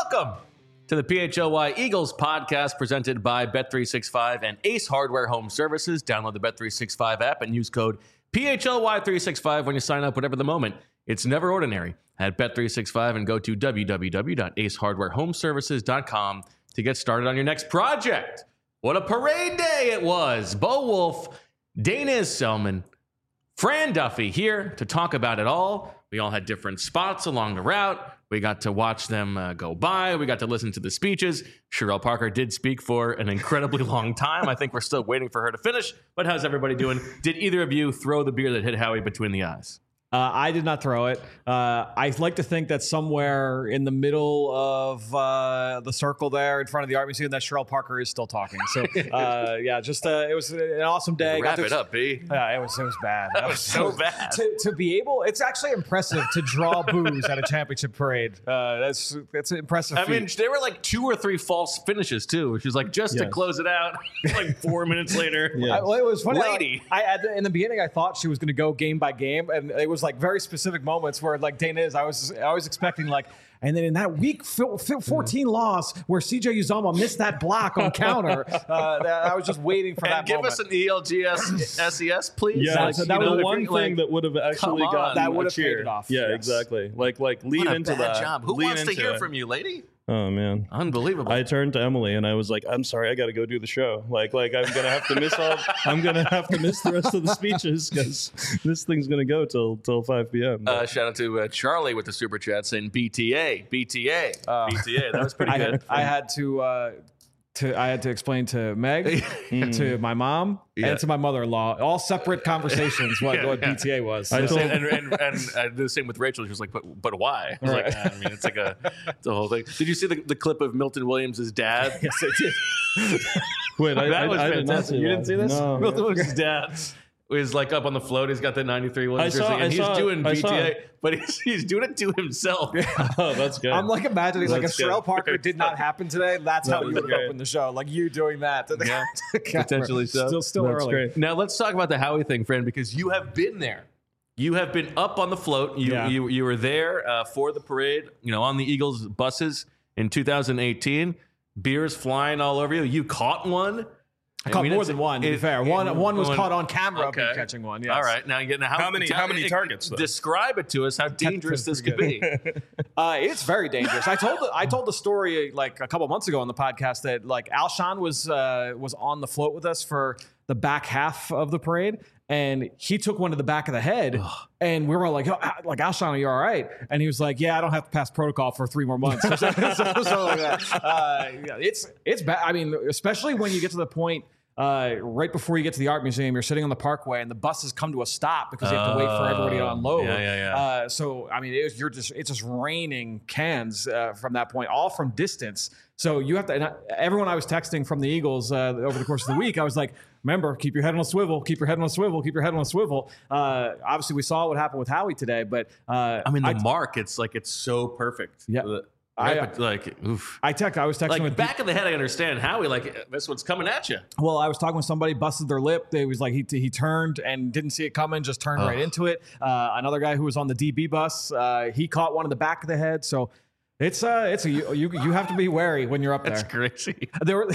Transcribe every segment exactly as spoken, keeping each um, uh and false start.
Welcome to the P H L Y Eagles podcast presented by Bet three sixty-five and Ace Hardware Home Services. Download the Bet three sixty-five app and use code P H L Y three sixty-five when you sign up, whatever the moment. It's never ordinary at Bet three sixty-five and go to w w w dot ace hardware home services dot com to get started on your next project. What a parade day it was. Bo Wolf, Dana Selman, Fran Duffy here to talk about it all. We all had different spots along the route. We got to watch them uh, go by. We got to listen to the speeches. Sherelle Parker did speak for an incredibly long time. I think we're still waiting for her to finish. But how's everybody doing? Did either of you throw the beer that hit Howie between the eyes? Uh, I did not throw it. Uh, I like to think that somewhere in the middle of uh, the circle there in front of the art museum that Sherelle Parker is still talking. So, uh, yeah, just uh, it was an awesome day. Wrap to, it up, B. Yeah, it was it was bad. That was so bad. To, to be able, it's actually impressive to draw booze at a championship parade. Uh, that's that's an impressive I feat. mean, there were like two or three false finishes too, which was like just to Yes. close it out. Like four minutes later, I, well, it was funny. Lady. I, I at the, in the beginning, I thought she was going to go game by game, and it was like very specific moments where, like Dana is, I was I was expecting like, and then in that week fourteen loss where C J Uzomah missed that block on counter, uh, that, I was just waiting for and that give moment. us an E L G S S E S, please. Yeah, Like, so you that know, was if one you're, thing like, that would have actually come on. gotten That would a have paid cheer. it off. Yeah, Yes. exactly. Like, like lean What a into bad that. job. Who Lean wants to into hear it. from you, lady? Oh man, Unbelievable. I turned to Emily and I was like, "I'm sorry, I got to go do the show. Like, like I'm gonna have to miss all. I'm gonna have to miss the rest of the speeches because this thing's gonna go till till five p.m." Uh, shout out to uh, Charlie with the super chat saying B T A, B T A, Uh, B T A. That was pretty I good. had, I had to uh, to I had to explain to Meg, to my mom, Yeah. and to my mother-in-law, all separate conversations what, Yeah, what yeah. B T A was. I So- told- and, and, and, and I did the same with Rachel. She was like, but but why? I was Right. like, I mean, it's like a, it's a whole thing. Did you see the, the clip of Milton Williams' dad? yes, I did. Wait, I, That I, was I did not fantastic. see You that. didn't see this? No. Milton Williams' dad was like up on the float. He's got the ninety-three Williams I jersey, saw- and I he's saw it. doing I B T saw A, it. but he's, he's doing it to himself. Oh, that's good. I'm like imagining like if That's good. Sherelle Parker did not happen today, that's how That you was would great. open the show. Like you doing that. To the, Yeah, to camera. potentially so. Still, still That's early. great. Now let's talk about the Howie thing, friend, because you have been there. You have been up on the float. You Yeah. you, you were there uh, for the parade. You know, on the Eagles buses in two thousand eighteen. Beers flying all over you. You caught one. I caught mean, more it's- than one. To be it- fair, one it- one was one- caught on camera. of me Okay. catching one. Yes. All right. Now, you now how, How many- tell- how many it- targets, though? Describe it to us. How dangerous this could be. Uh, it's very dangerous. I told the, I told the story like a couple months ago on the podcast that like Alshon was uh, was on the float with us for the back half of the parade, and he took one to the back of the head, and we were all like, oh, Al- like Alshon, are you all right? And he was like, yeah, I don't have to pass protocol for three more months. so, so, so like that. Uh, yeah, it's it's bad. I mean, especially when you get to the point. Uh, right before you get to the art museum, you're sitting on the parkway, and the buses come to a stop because you have to wait for everybody to Oh, unload. yeah, yeah, yeah. Uh, so I mean, it was, you're just it's just raining cans uh, from that point, all from distance. So you have to. And I, everyone I was texting from the Eagles uh, over the course of the week, I was like, remember, keep your head on a swivel, keep your head on a swivel, keep your head on a swivel. Uh, obviously, we saw what happened with Howie today, but uh, I mean, the I, mark. It's like it's so perfect. Yeah. The- I- Right, but like, oof. I text. I was texting Like with back of the head, I understand Howie. Like this one's coming at you. Well, I was talking with somebody, busted their lip. They was like he he turned and didn't see it coming, just turned Ugh. right into it. Uh, another guy who was on the D B bus, uh, he caught one in the back of the head. So it's uh it's a you you, you have to be wary when you're up That's there. crazy. They were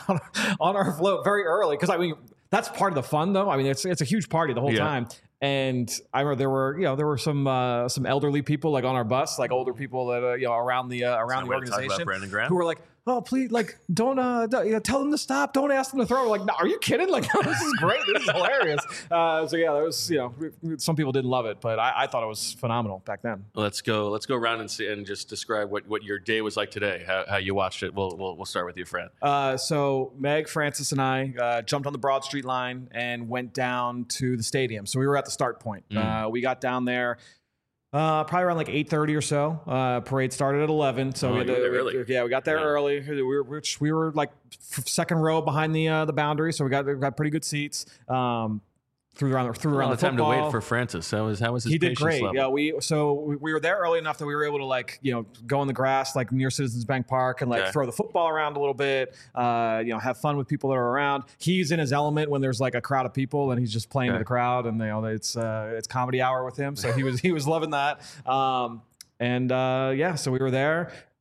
on our float very early because I mean that's part of the fun though. I mean it's it's a huge party the whole Yeah. time. And I remember there were, you know, there were some uh, some elderly people like on our bus, like older people that uh, you know around the uh, around the Somebody talk about organization, Brandon Graham? who were like, "Oh, please, like, don't, uh, don't, you know, tell them to stop. Don't ask them to throw." We're like, no, are you kidding? Like, no, this is great. This is hilarious. Uh, so yeah, there was, you know, some people didn't love it, but I, I thought it was phenomenal back then. Let's go. Let's go around and see and just describe what, what your day was like today. How, how you watched it. We'll, we'll we'll start with you, Fran. Uh, so Meg, Francis, and I uh, jumped on the Broad Street line and went down to the stadium. So we were at the start point. Mm. Uh, we got down there uh, probably around like eight thirty or so. Uh, parade started at eleven. So Oh, we had you to, were there early. yeah, we got there Yeah. early. We were which we were like f- second row behind the uh, the boundary, so we got we got pretty good seats. Um, threw around threw All around the the time to football. wait for Francis. How was how was his He did patience great. level? Yeah, we so we, we were there early enough that we were able to like you know go in the grass like near Citizens Bank Park and like Okay. throw the football around a little bit. Uh, you know, have fun with people that are around. He's in his element when there's like a crowd of people and he's just playing Okay. to the crowd, and you know it's uh, it's comedy hour with him. So he was he was loving that. Um, and uh, yeah, so we were there.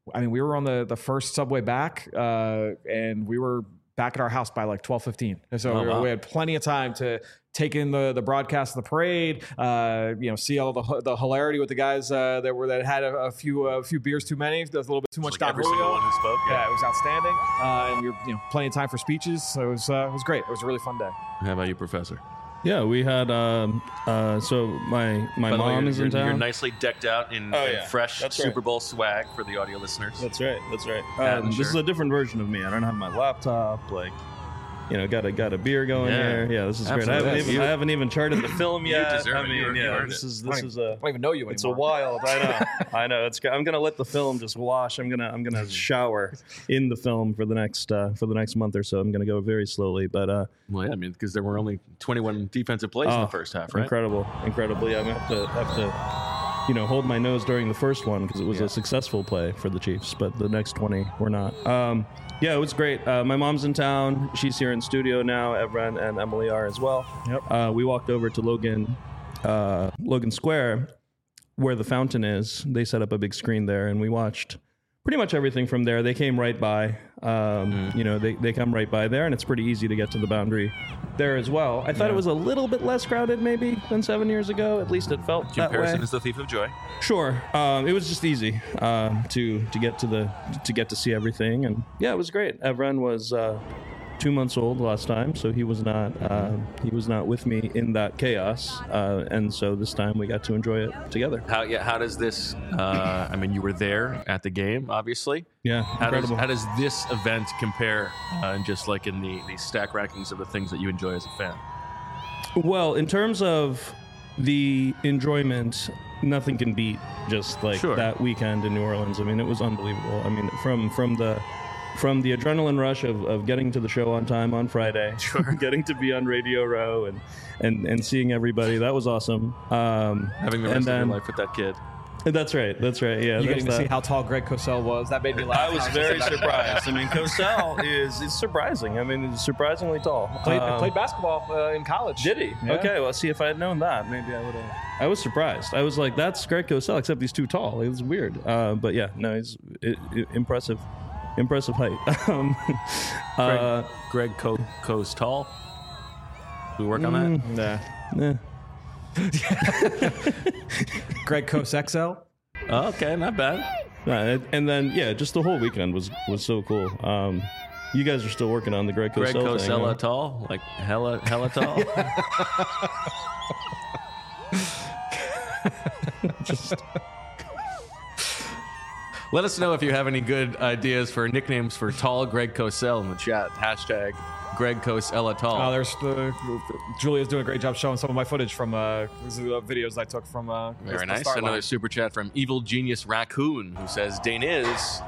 I mean, we were on the, the first subway back, uh, and we were back at our house by like twelve fifteen. And so Oh, we, were, wow. we had plenty of time to take in the, the broadcast of the parade, uh, you know, see all the the hilarity with the guys uh, that were that had a, a few a few beers too many. There was a little bit too much Like Don every single Julio. one who spoke. Yeah, it was outstanding. Uh, and we were, you know, plenty of time for speeches. So it was uh, it was great. It was a really fun day. How about you, Professor? Yeah, we had. Um, uh, so my my By the way, mom you're, is in you're, town. you're nicely decked out in, Oh, in yeah. fresh That's Super right. Bowl swag for the audio listeners. That's right. That's right. Hat Um, and this is shirt. a different version of me. I don't have my laptop. Like, you know, got a got a beer going Yeah. here. Yeah, this is great. I Absolutely. haven't even You- I haven't even charted the film You yet. deserve I it. mean, You- you yeah, earned this it. is I this don't is even- a. I don't even know you It's a anymore. wild. I know. I know. It's. I'm gonna let the film just wash. I'm gonna. I'm gonna shower in the film for the next uh, for the next month or so. I'm gonna go very slowly, but uh, Well, yeah, I mean, because there were only twenty-one defensive plays in Oh, the first half, right? incredible, incredible. Yeah, I'm gonna have to have to, you know, hold my nose during the first one because it was Yeah. a successful play for the Chiefs, but the next twenty were not. Um, yeah, it was great. Uh, my mom's in town. She's here in studio now. Evren and Emily are as well. Yep. Uh, we walked over to Logan, uh, Logan Square, where the fountain is. They set up a big screen there, and we watched pretty much everything from there. They came right by. Um, You know, they, they come right by there, and it's pretty easy to get to the boundary there as well. I thought it was a little bit less crowded maybe than seven years ago. At least it felt that way. Comparison is the thief of joy. Sure. Um, it was just easy um, to to get to the to get to see everything, and yeah, it was great. Evren was uh, two months old last time, so he was not uh, he was not with me in that chaos, uh, and so this time we got to enjoy it together. How yeah? How does this? Uh, I mean, you were there at the game, obviously. Yeah, How does, incredible. how does this event compare, uh, and just like in the the stack rankings of the things that you enjoy as a fan? Well, in terms of the enjoyment, nothing can beat just like Sure. that weekend in New Orleans. I mean, it was unbelievable. I mean, from from the from the adrenaline rush of, of getting to the show on time on Friday, Sure. getting to be on Radio Row and and and seeing everybody, that was awesome. Um, Having the and rest of then your life with that kid. that's right, that's right. Yeah, You there's getting to that. see how tall Greg Cosell was. That made me laugh. I was very surprised. I mean, Cosell is is surprising. I mean, he's surprisingly tall. Played, Um, played basketball uh, in college. Did he? Yeah. Okay, well, see, if I had known that, maybe I would have. I was surprised. I was like, that's Greg Cosell, except he's too tall. It was weird. Uh, but yeah, no, he's i i impressive. Impressive height. um, Greg, uh, Greg Co- Co's tall. We work on that. Nah. eh. Greg Cos X L. Oh, okay, not bad. Uh, and then, yeah, just the whole weekend was was so cool. Um, you guys are still working on the Greg Greg Cosell thing. Cosella huh? tall, like hella hella tall. Just- Let us know if you have any good ideas for nicknames for tall Greg Cosell in the chat. Hashtag Greg Cosella tall. Oh, there's the Julia's doing a great job showing some of my footage from uh, these are the videos I took from. Uh, Very the nice. start Another line. super chat from Evil Genius Raccoon, who says, Daniz,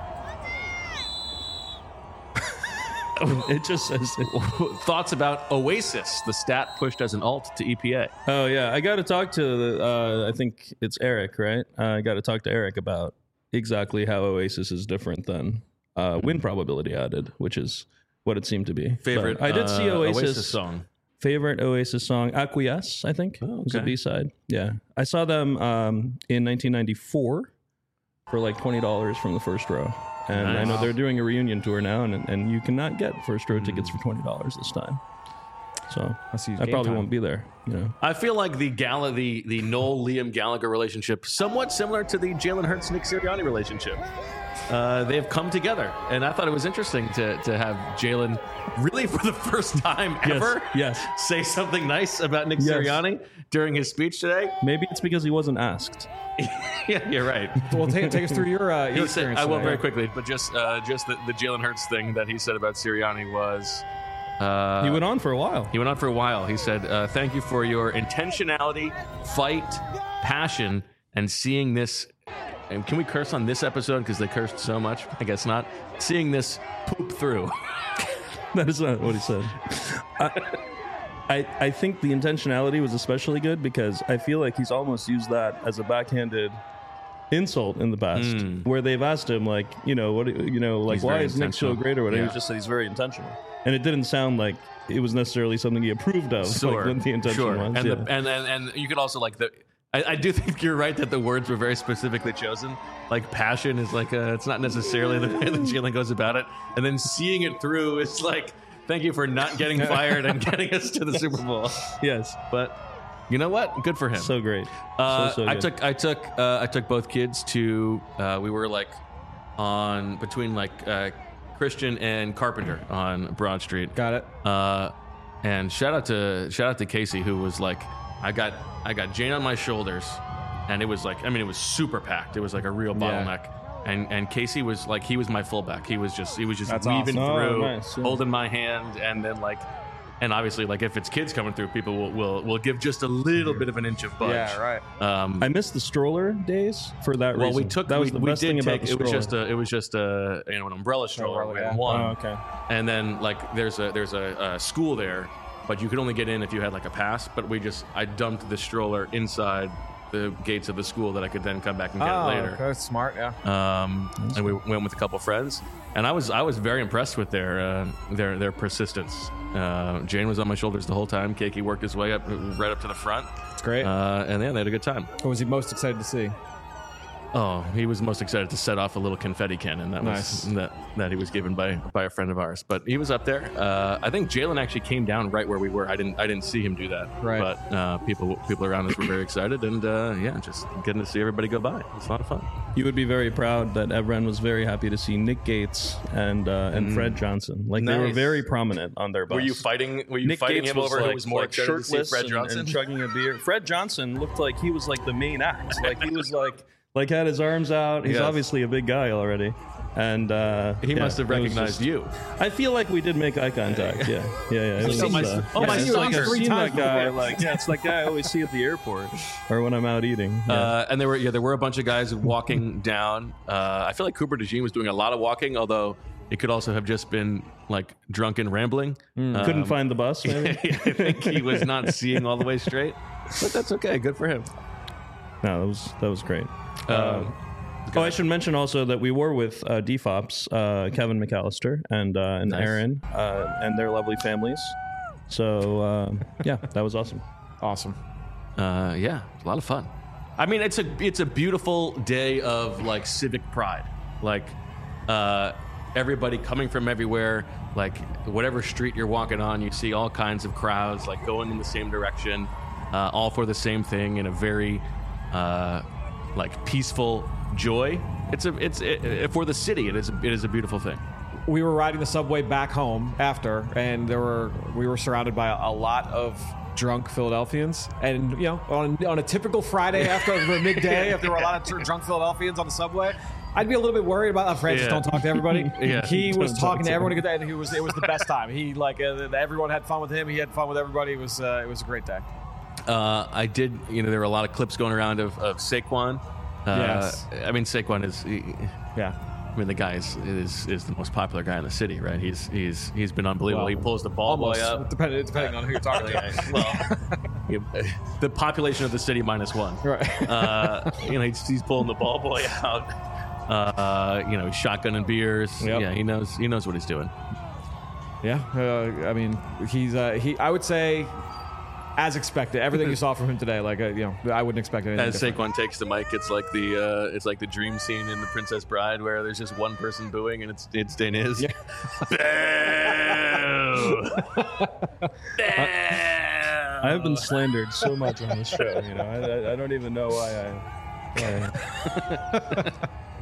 it just says. thoughts about Oasis, the stat pushed as an alt to E P A. Oh yeah, I got to talk to. The, uh, I think it's Eric, right? Uh, I got to talk to Eric about exactly how Oasis is different than uh, win probability added, which is what it seemed to be. Favorite But I did see uh, Oasis, song. favorite Oasis song, Acquiesce, I think, Oh, was a okay. B side. Yeah, I saw them um, in nineteen ninety-four for like twenty dollars from the first row. And I Nice. know they're doing a reunion tour now, and and you cannot get first row tickets Hmm. for twenty dollars this time. So I see I game probably time. won't be there. You know, I feel like the Gala, the the Noel Liam Gallagher relationship, somewhat similar to the Jalen Hurts Nick Sirianni relationship. Uh, they've come together, and I thought it was interesting to to have Jalen really for the first time ever yes. say something nice about Nick Yes. Sirianni during his speech today. Maybe it's because he wasn't asked. Yeah, you're right. Well, take, take us through your uh, your He said, experience. I will today. very quickly, but just uh, just the, the Jalen Hurts thing that he said about Sirianni was. Uh, He went on for a while. He went on for a while. He said, uh, thank you for your intentionality, fight, passion, and seeing this. And can we curse on this episode? Because they cursed so much. I guess not. Seeing this poop through. That is not what he said. I, I I think the intentionality was especially good because I feel like he's almost used that as a backhanded insult in the past, Mm. where they've asked him like, you know, what, you know, like He's why very is Nick so intentional. great or whatever. Yeah. He just said he's very intentional, and it didn't sound like it was necessarily something he approved of. Sure. Like, what the intention sure. was. And, yeah. the, and, and and you could also like the I, I do think you're right that the words were very specifically chosen. Like passion is like a, it's not necessarily the way that Jalen goes about it, and then seeing it through is like, thank you for not getting fired and getting us to the Super Bowl. Yes, But you know what? Good for him. so great. Uh, so, so I good. took I took uh, I took both kids to uh, we were like on between like uh, Christian and Carpenter on Broad Street. Got it. Uh, and shout out to shout out to Casey, who was like, I got I got Jane on my shoulders, and it was like, I mean, it was super packed. It was like a real bottleneck. And and Casey was like, he was my fullback. He was just he was just That's weaving awesome. Oh, through, nice, yeah. holding my hand, and then like, and obviously like if it's kids coming through, people will will, will give just a little bit of an inch of budge. Yeah, right. Um, I missed the stroller days for that well, reason. we took that was we, the we best did thing about take the it was stroller. just a it was just a you know an umbrella stroller. Umbrella, We had yeah. one. Oh, okay. And then like there's a there's a, a school there, but you could only get in if you had like a pass. But we just I dumped the stroller inside the gates of the school that I could then come back and get Oh, it later. okay. Smart, yeah. Um, and we went with a couple friends, and I was I was very impressed with their uh, their their persistence. Uh, Jane was on my shoulders the whole time. Keiki worked his way up right up to the front, It's great. uh, and yeah, they had a good time. what was he most excited to see? Oh, he was most excited to set off a little confetti cannon that Nice. was that, that he was given by by a friend of ours. But he was up there. Uh, I think Jalen actually came down right where we were. I didn't I didn't see him do that. Right. But uh, people people around us were very excited, and uh, yeah, just getting to see everybody go by. It was a lot of fun. You would be very proud that Evren was very happy to see Nick Gates and uh, and Fred Johnson. Like they were Nice. very prominent on their bus. Were you fighting? Were you Nick fighting Gates him was over like, who was more like excited to see shirtless Fred and, Johnson? and chugging a beer? Fred Johnson looked like he was like the main act. Like he was like like had his arms out. He's Yes. obviously a big guy already. And uh, he yeah, must have it was recognized just- you. I feel like we did make eye contact. Yeah, yeah, yeah. It was, Oh, my- uh, oh, my it's son like I've three seen times that guy. before. Like, yeah, it's that guy I always see at the airport or when I'm out eating. Yeah. Uh, and there were yeah there were a bunch of guys walking down. Uh, I feel like Cooper DeJean was doing a lot of walking, although it could also have just been like drunken rambling. Um, Couldn't find the bus. Maybe? I think he was not seeing all the way straight, but that's okay. Good for him. No, that was that was great. Uh, Oh, I should mention also that we were with uh, D FOPs, uh, Kevin McAllister and uh, and Nice. Aaron uh, and their lovely families. So uh, yeah, that was awesome. Awesome. Uh, yeah, a lot of fun. I mean, it's a it's a beautiful day of like civic pride. Like uh, everybody coming from everywhere. Like whatever street you're walking on, you see all kinds of crowds like going in the same direction, uh, all for the same thing in a very uh, like peaceful joy. It's a it's it, for the city. It is it is a beautiful thing. We were riding the subway back home after, and there were we were surrounded by a, a lot of drunk Philadelphians. And you know, on on a typical Friday after the midday, if there were a lot of tr- drunk Philadelphians on the subway, I'd be a little bit worried about oh, Francis. Yeah. Don't talk to everybody. Yeah. He was Don't talking talk to to everyone, and he was it was the best time. He like uh, everyone had fun with him. He had fun with everybody. It was uh, it was a great day. Uh, I did. You know, there were a lot of clips going around of, of Saquon. Uh, Yes. I mean, Saquon is. He, Yeah. I mean, the guy is, is is the most popular guy in the city, right? He's he's he's been unbelievable. Well, he pulls the ball boy Almost, up. depending depending on who you're talking to. well, he- the population of the city minus one. Right. Uh, you know, he's, he's pulling the ball boy out. Uh, you know, he's shotgunning beers. Yep. Yeah, he knows he knows what he's doing. Yeah, uh, I mean, he's uh, he. I would say, as expected, everything you saw from him today. Like, uh, you know, I wouldn't expect anything As different. Saquon takes the mic, it's like the uh, it's like the dream scene in The Princess Bride where there's just one person booing and it's it's Daenerys. Boo! I have been slandered so much on this show. You know, I, I, I don't even know why I. Why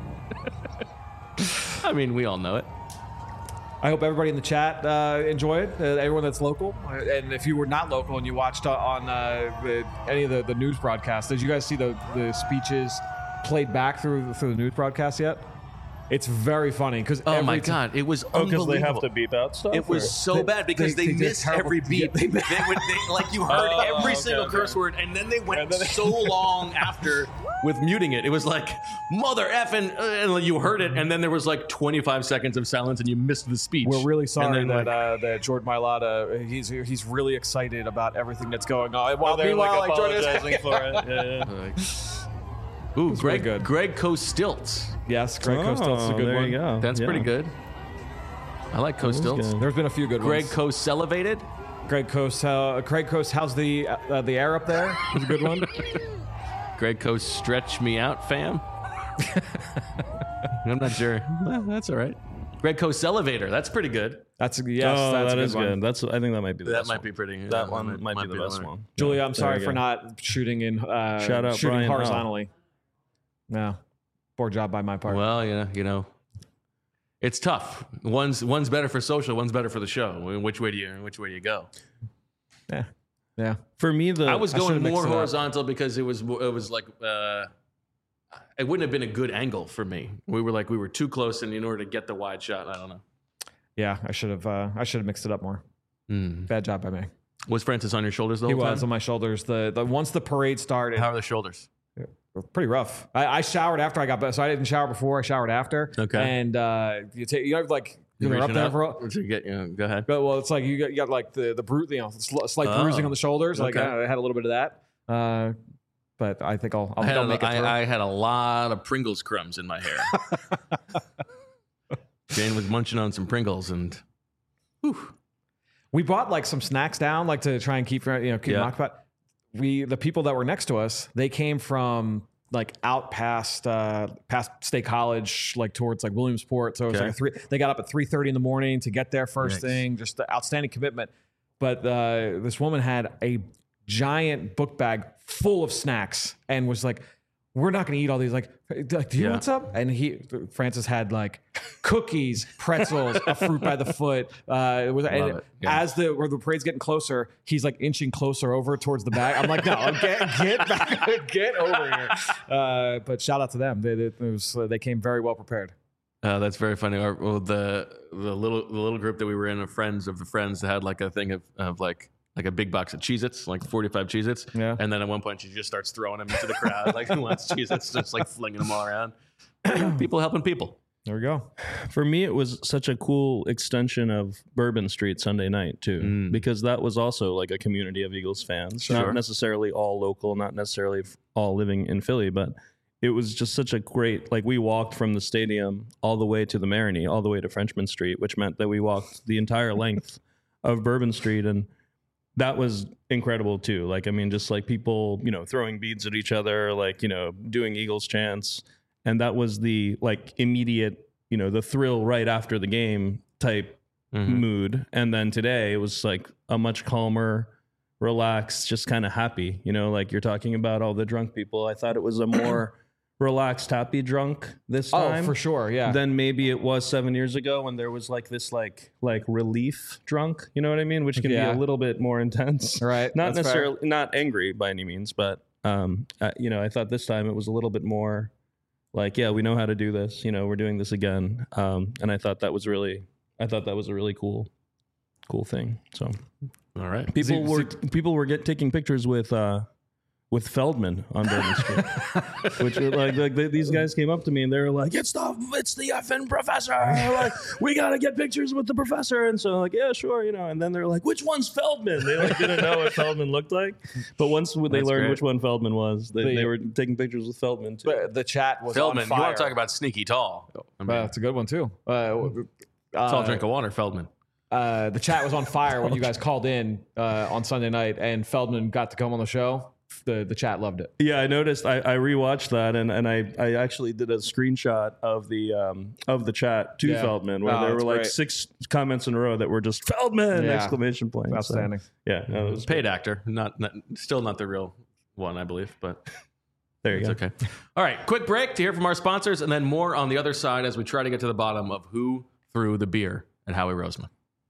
I mean, we all know it. I hope everybody in the chat uh, enjoy it. Uh, everyone that's local, Uh, and if you were not local and you watched uh, on uh, the, any of the, the news broadcasts, did you guys see the, the speeches played back through through the news broadcast yet? It's very funny because Oh my god, it was oh, because unbelievable. they have to beep out stuff. It was or- so They- bad because they- they, they did missed terrible- every beat. yeah, They, they- would, they, like you heard Oh, every okay, single okay. curse word, and then they went And then they- so long after with muting it. It was like mother effing, uh, and you heard it, and then there was like twenty-five seconds of silence, and you missed the speech. We're really sorry And then, that like, uh, that Jordan Mailata he's he's really excited about everything that's going on. While they're meanwhile, like like, Jordan- apologizing for it. Yeah, yeah. like, ooh, really Greg, good. Greg Costilts. yes, Greg Costilt's a Oh, good there one. you go. That's Yeah. pretty good. I like That was Costilts. good. There's been a few good Greg ones. Coast elevated. Greg Coast, uh, Craig Coast, how's the uh, the air up there? Is a good one. Greg Coast, stretch me out, fam. I'm not sure. Well, that's all right. Greg Coast elevator. That's pretty good. That's yes. oh, that's that a is good. good. That's. I think that might be the That best might one. be pretty. yeah, That one might, be the best winner. one. Julia, I'm There sorry you for go. not shooting in. Uh, Shout out shooting Brian horizontally. No, poor job by my part. Well, yeah, you know, it's tough. One's one's better for social. One's better for the show. Which way do you? Which way do you go? yeah, yeah. For me, the I was I going should've mixed more it up. horizontal because it was it was like uh, it wouldn't have been a good angle for me. We were like we were too close, and in order to get the wide shot, I don't know. Yeah, I should have. Uh, I should have mixed it up more. Mm. Bad job by me. Was Francis on your shoulders the He whole was time? on my shoulders. The the once the parade started, How are the shoulders? pretty rough. I, I showered after I got back, so I didn't shower before. I showered after. Okay. And uh, you take you have like You you're up reaching there up for. to get, you know, go ahead. But, well, it's like you got, you got like the the bru- you know sl- slight Oh, bruising on the shoulders. Like okay. I, I had a little bit of that. Uh, but I think I'll I'll, I had, I'll a, make it through. I, I had a lot of Pringles crumbs in my hair. Jane was munching on some Pringles, and whew. We brought like some snacks down, like to try and keep you know keep Yeah. them occupied. We the people that were next to us, they came from like out past uh, past State College, like towards like Williamsport. So it was Okay. like a three. They got up at three thirty in the morning to get there first Nice. thing. Just the outstanding commitment. But uh, this woman had a giant book bag full of snacks and was like, "We're not going to eat all these." Like, like, do you Yeah. want some? And he, Francis, had like cookies, pretzels, a fruit by the foot. Uh, it was and it. Yeah. as the where the parade's getting closer, he's like inching closer over towards the bag. I'm like, no, get get back, get over here. Uh, but shout out to them. They they, it was, uh, they came very well prepared. Uh, that's very funny. Our, well, the the little the little group that we were in of friends of the friends that had like a thing of, of like like a big box of Cheez-Its, like forty-five Cheez-Its. Yeah. And then at one point she just starts throwing them into the crowd, like who wants Cheez-Its, just like flinging them all around. People helping people. There we go. For me, it was such a cool extension of Bourbon Street Sunday night too, Mm. because that was also like a community of Eagles fans, Sure. not necessarily all local, not necessarily f- all living in Philly, but it was just such a great, like we walked from the stadium all the way to the Marigny, all the way to Frenchman Street, which meant that we walked the entire length of Bourbon Street. And that was incredible too. Like, I mean, just like people, you know, throwing beads at each other, like, you know, doing Eagles chants. And that was the like immediate, you know, the thrill right after the game type Mhm. mood. And then today it was like a much calmer, relaxed, just kind of happy, you know, like you're talking about all the drunk people. I thought it was a more relaxed, happy drunk this time. Oh, for sure. Yeah. Than maybe it was seven years ago when there was like this like like relief drunk, you know what I mean? Which can Yeah. be a little bit more intense. Right. Not That's fair. necessarily not angry by any means, but um, uh, you know, I thought this time it was a little bit more like, yeah, we know how to do this. You know, we're doing this again. Um, and I thought that was really, I thought that was a really cool, cool thing. So All right. people See- were people were get taking pictures with uh, with Feldman on Bourbon Street, which were like, like they, these guys came up to me and they were like, "It's the it's the effing professor! Like, we gotta get pictures with the professor." And so I'm like, "Yeah, sure," you know. And then they're like, "Which one's Feldman?" They like didn't know what Feldman looked like, but once they That's learned great. which one Feldman was, they, The- they were taking pictures with Feldman too. But the chat was Feldman, on you fire. want to talk about sneaky tall? I mean, Well, that's a good one too. Uh, tall uh, drink of water, Feldman. uh, the chat was on fire when you guys called in uh, on Sunday night, and Feldman got to come on the show. The the chat loved it. Yeah, I noticed. I, I rewatched that, and, and I, I actually did a screenshot of the um of the chat to Yeah. Feldman, where Oh, there were that's like great. six comments in a row that were just Feldman Yeah. exclamation point. So, Outstanding. yeah, no, it was Paid actor, not, not still not the real one, I believe, but there you it's go. okay. All right, quick break to hear from our sponsors, and then more on the other side as we try to get to the bottom of who threw the beer at Howie Roseman.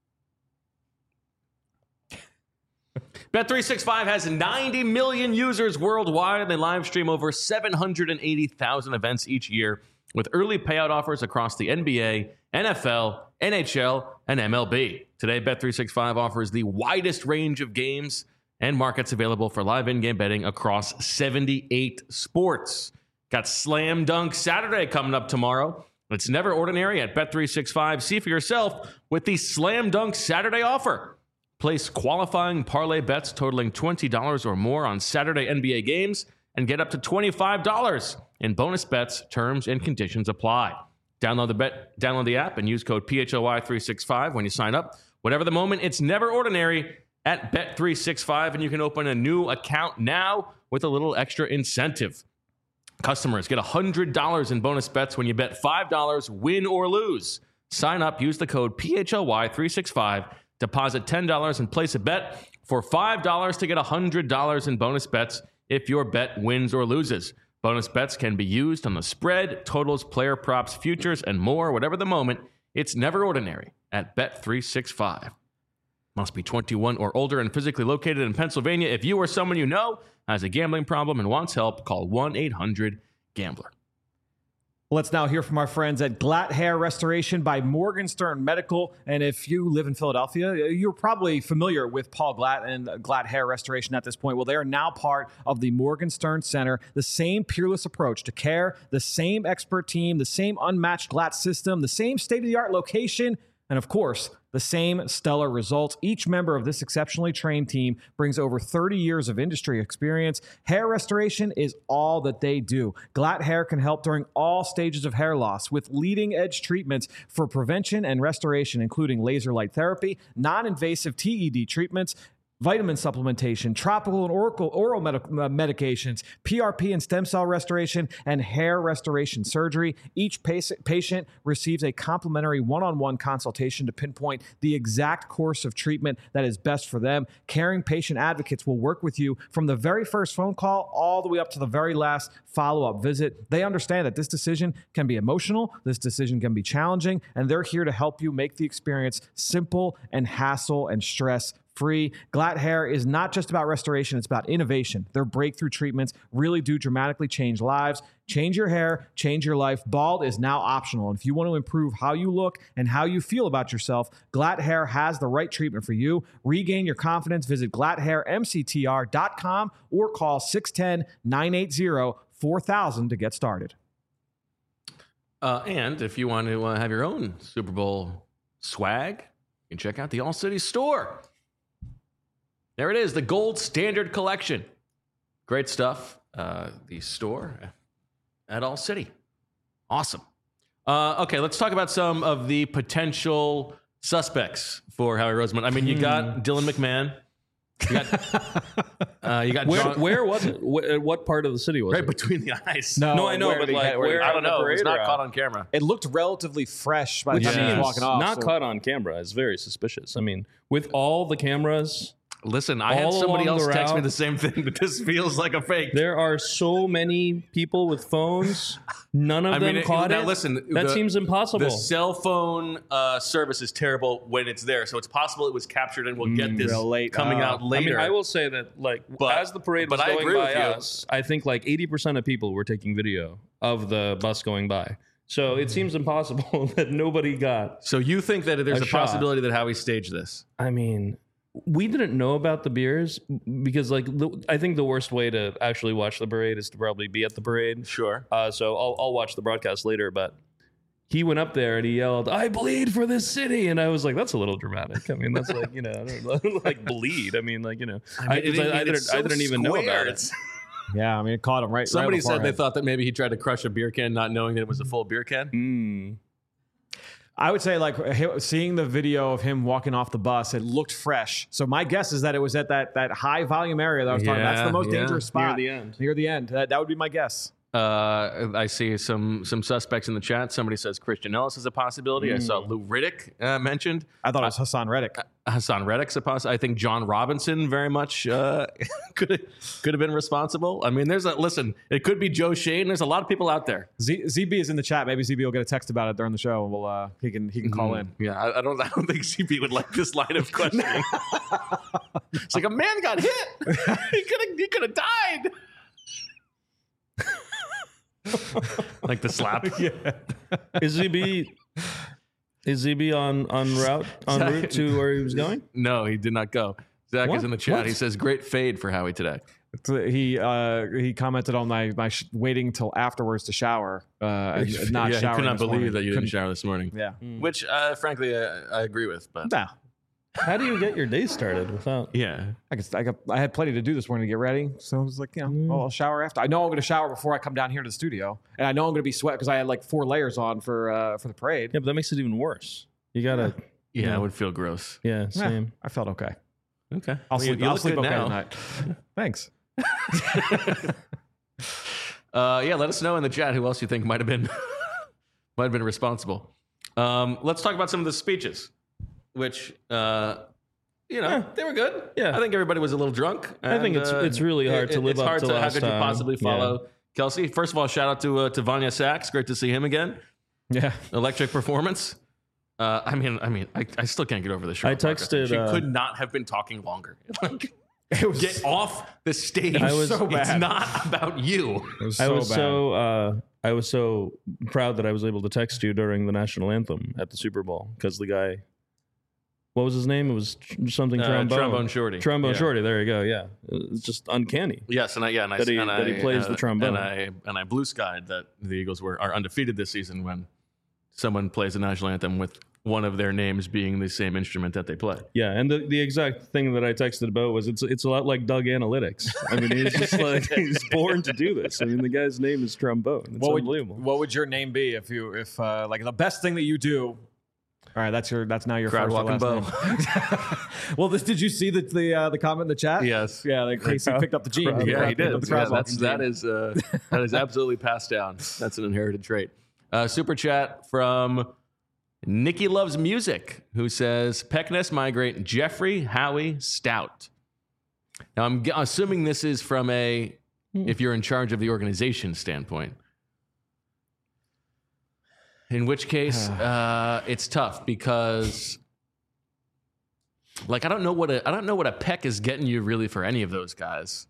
Bet three sixty-five has ninety million users worldwide, and they live stream over seven hundred eighty thousand events each year with early payout offers across the N B A, N F L, N H L, and M L B. Today, Bet three sixty-five offers the widest range of games and markets available for live in-game betting across seventy-eight sports. Got Slam Dunk Saturday coming up tomorrow. It's never ordinary at Bet three sixty-five. See for yourself with the Slam Dunk Saturday offer. Place qualifying parlay bets totaling twenty dollars or more on Saturday N B A games and get up to twenty-five dollars in bonus bets. Terms and conditions apply. Download the bet, download the app and use code P H O Y three sixty-five when you sign up. Whatever the moment, it's never ordinary at Bet three sixty-five, and you can open a new account now with a little extra incentive. Customers get one hundred dollars in bonus bets when you bet five dollars, win or lose. Sign up, use the code P H L Y three sixty-five, deposit ten dollars and place a bet for five dollars to get one hundred dollars in bonus bets if your bet wins or loses. Bonus bets can be used on the spread, totals, player props, futures, and more, whatever the moment. It's never ordinary at Bet three sixty-five. Must be twenty-one or older and physically located in Pennsylvania. If you or someone you know has a gambling problem and wants help, call one eight hundred gambler. Let's now hear from our friends at Glatt Hair Restoration by Morgenstern Medical. And if you live in Philadelphia, you're probably familiar with Paul Glatt and Glatt Hair Restoration at this point. Well, they are now part of the Morgenstern Center. The same peerless approach to care, the same expert team, the same unmatched Glatt system, the same state-of-the-art location, and of course, the same stellar results. Each member of this exceptionally trained team brings over thirty years of industry experience. Hair restoration is all that they do. Glatt Hair can help during all stages of hair loss with leading-edge treatments for prevention and restoration, including laser light therapy, non-invasive T E D treatments, vitamin supplementation, tropical and oral, oral medic, uh, medications, P R P and stem cell restoration, and hair restoration surgery. Each patient, patient receives a complimentary one-on-one consultation to pinpoint the exact course of treatment that is best for them. Caring patient advocates will work with you from the very first phone call all the way up to the very last follow-up visit. They understand that this decision can be emotional, this decision can be challenging, and they're here to help you make the experience simple and hassle and stress free. Glatt Hair is not just about restoration, it's about innovation. Their breakthrough treatments really do dramatically change lives. Change your hair, change your life. Bald is now optional. And if you want to improve how you look and how you feel about yourself, Glatt Hair has the right treatment for you. Regain your confidence. Visit glatt hair m c t r dot com or call six one zero, nine eight zero, four thousand to get started. Uh, and if you want to uh, have your own Super Bowl swag, you can check out the All City store. There it is, the Gold Standard Collection. Great stuff. Uh, the store at All City. Awesome. Uh, okay, let's talk about some of the potential suspects for Howie Roseman. I mean, you got Dylan McMahon. You got, uh, you got Where, John, where was it? Wh- what part of the city was right it? between the eyes. No, No, I know, where but did he like, get- where did where he I don't on the know. It was parade not or caught out? on camera. It looked relatively fresh by the Which time he was means walking off. not so- caught on camera is very suspicious. I mean, with all the cameras, Listen, I had All somebody along else the text me route. the same thing, but this feels like a fake. there are so many people with phones. None of I them mean, it- caught now it. listen, that the- seems impossible. The cell phone uh, service is terrible when it's there, so it's possible it was captured, and we'll get this real late. coming Oh. out I later. mean, I will say that, like, But- as the parade but was I going agree by with you. us, I think like eighty percent of people were taking video of the bus going by. So it seems impossible that nobody got. So you think that there's A a, shot. possibility that Howie staged this? I mean, we didn't know about the beers because, like, the, I think the worst way to actually watch the parade is to probably be at the parade. Sure. Uh, so I'll, I'll watch the broadcast later, but he went up there and he yelled, "I bleed for this city." And I was like, that's a little dramatic. I mean, that's like, you know, I don't, like bleed. I mean, like, you know, I, mean, it- 'cause I, I it's didn't, so I didn't even know square. about it. It's- Yeah, I mean, it caught him right. Somebody right said they beforehand. thought that maybe he tried to crush a beer can, not knowing that it was a full beer can. Mm. I would say, like, hi- seeing the video of him walking off the bus, it looked fresh. So my guess is that it was at that that high volume area that I was talking about. That's the most Yeah, dangerous Near spot. the end. Near the end. That, that would be my guess. Uh, I see some some suspects in the chat. Somebody says Christian Ellis is a possibility. I saw Lou Riddick uh, mentioned. I thought it was Hassan Reddick. Hassan Reddick's a possibility. I think John Robinson very much uh, could have could have been responsible. I mean, there's a listen. It could be Joe Shane. There's a lot of people out there. Z- ZB is in the chat. Maybe Z B will get a text about it during the show, and we'll uh, he can he can call in. Yeah, I, I don't. I don't think C B would like this line of questioning. It's like a man got hit. he could have. He could have died. Like the slap. Is Z B is Z B on on route on route to where he was going? No, he did not go. Zach What? is in the chat. What? He says, "Great fade for Howie today." So he uh, he commented on my my sh- waiting till afterwards to shower, uh, and not yeah, he showering. could not this believe morning. that you didn't Couldn't- shower this morning. Yeah. Which, uh, frankly, uh, I agree with. But No, How do you get your day started without? yeah, I guess I got I had plenty to do this morning to get ready, so I was like, you know, well, I'll shower after. I know I'm going to shower before I come down here to the studio, and I know I'm going to be sweat because I had like four layers on for uh, for the parade. Yeah, but that makes it even worse. You gotta. yeah, Yeah. it would feel gross. Yeah, Yeah, same. I felt okay. Okay, I'll Well, sleep. you I'll look sleep good okay now. tonight. Thanks. uh, yeah, let us know in the chat who else you think might have been might have been responsible. Um, let's talk about some of the speeches, which uh, you know Yeah. they were good. Yeah. I think everybody was a little drunk. I think and, it's- uh, it's really hard it- to live it's up hard to to, How last could you time. possibly Yeah. follow Kelsey? First of all, shout out to uh, to Vanya Sachs. Great to see him again. Yeah. Electric performance. Uh, I mean, I mean, I, I still can't get over the show. I texted, She uh, could not have been talking longer. Like, It was, get off the stage. I was- so It's bad. not about you. it was I so was bad. so uh, I was so proud that I was able to text you during the national anthem at the Super Bowl because the guy, what was his name? It was tr- something Uh, trombone. trombone shorty. Trombone Yeah. shorty. There you go. Yeah, it's just uncanny. Yes, and I yeah, and I That he- and that he I, plays uh, the trombone. and I and I blue skied that the Eagles were are undefeated this season when someone plays the national anthem with one of their names being the same instrument that they play. Yeah, and the, the exact thing that I texted about was it's it's a lot like Doug Analytics. I mean, he's just like he's born to do this. I mean, the guy's name is trombone. It's what would, unbelievable. what would your name be if you if uh, like the best thing that you do? All right, that's your that's now your Crowd first or walking last name. Well, this did you see the the uh, the comment in the chat? Yes. Yeah, like Casey crowd- picked up the gene. crowd- Yeah, he picked up did. the crowd Yeah, that's walking that gene. is uh, that is absolutely passed down. That's an inherited trait. Uh, super chat from Nikki Loves Music, who says Peckness migrate Jeffrey, Howie, Stout. Now I'm g- assuming this is from a if you're in charge of the organization standpoint. In which case, uh, it's tough because, like, I don't know what a I don't know what a Peck is getting you really for any of those guys.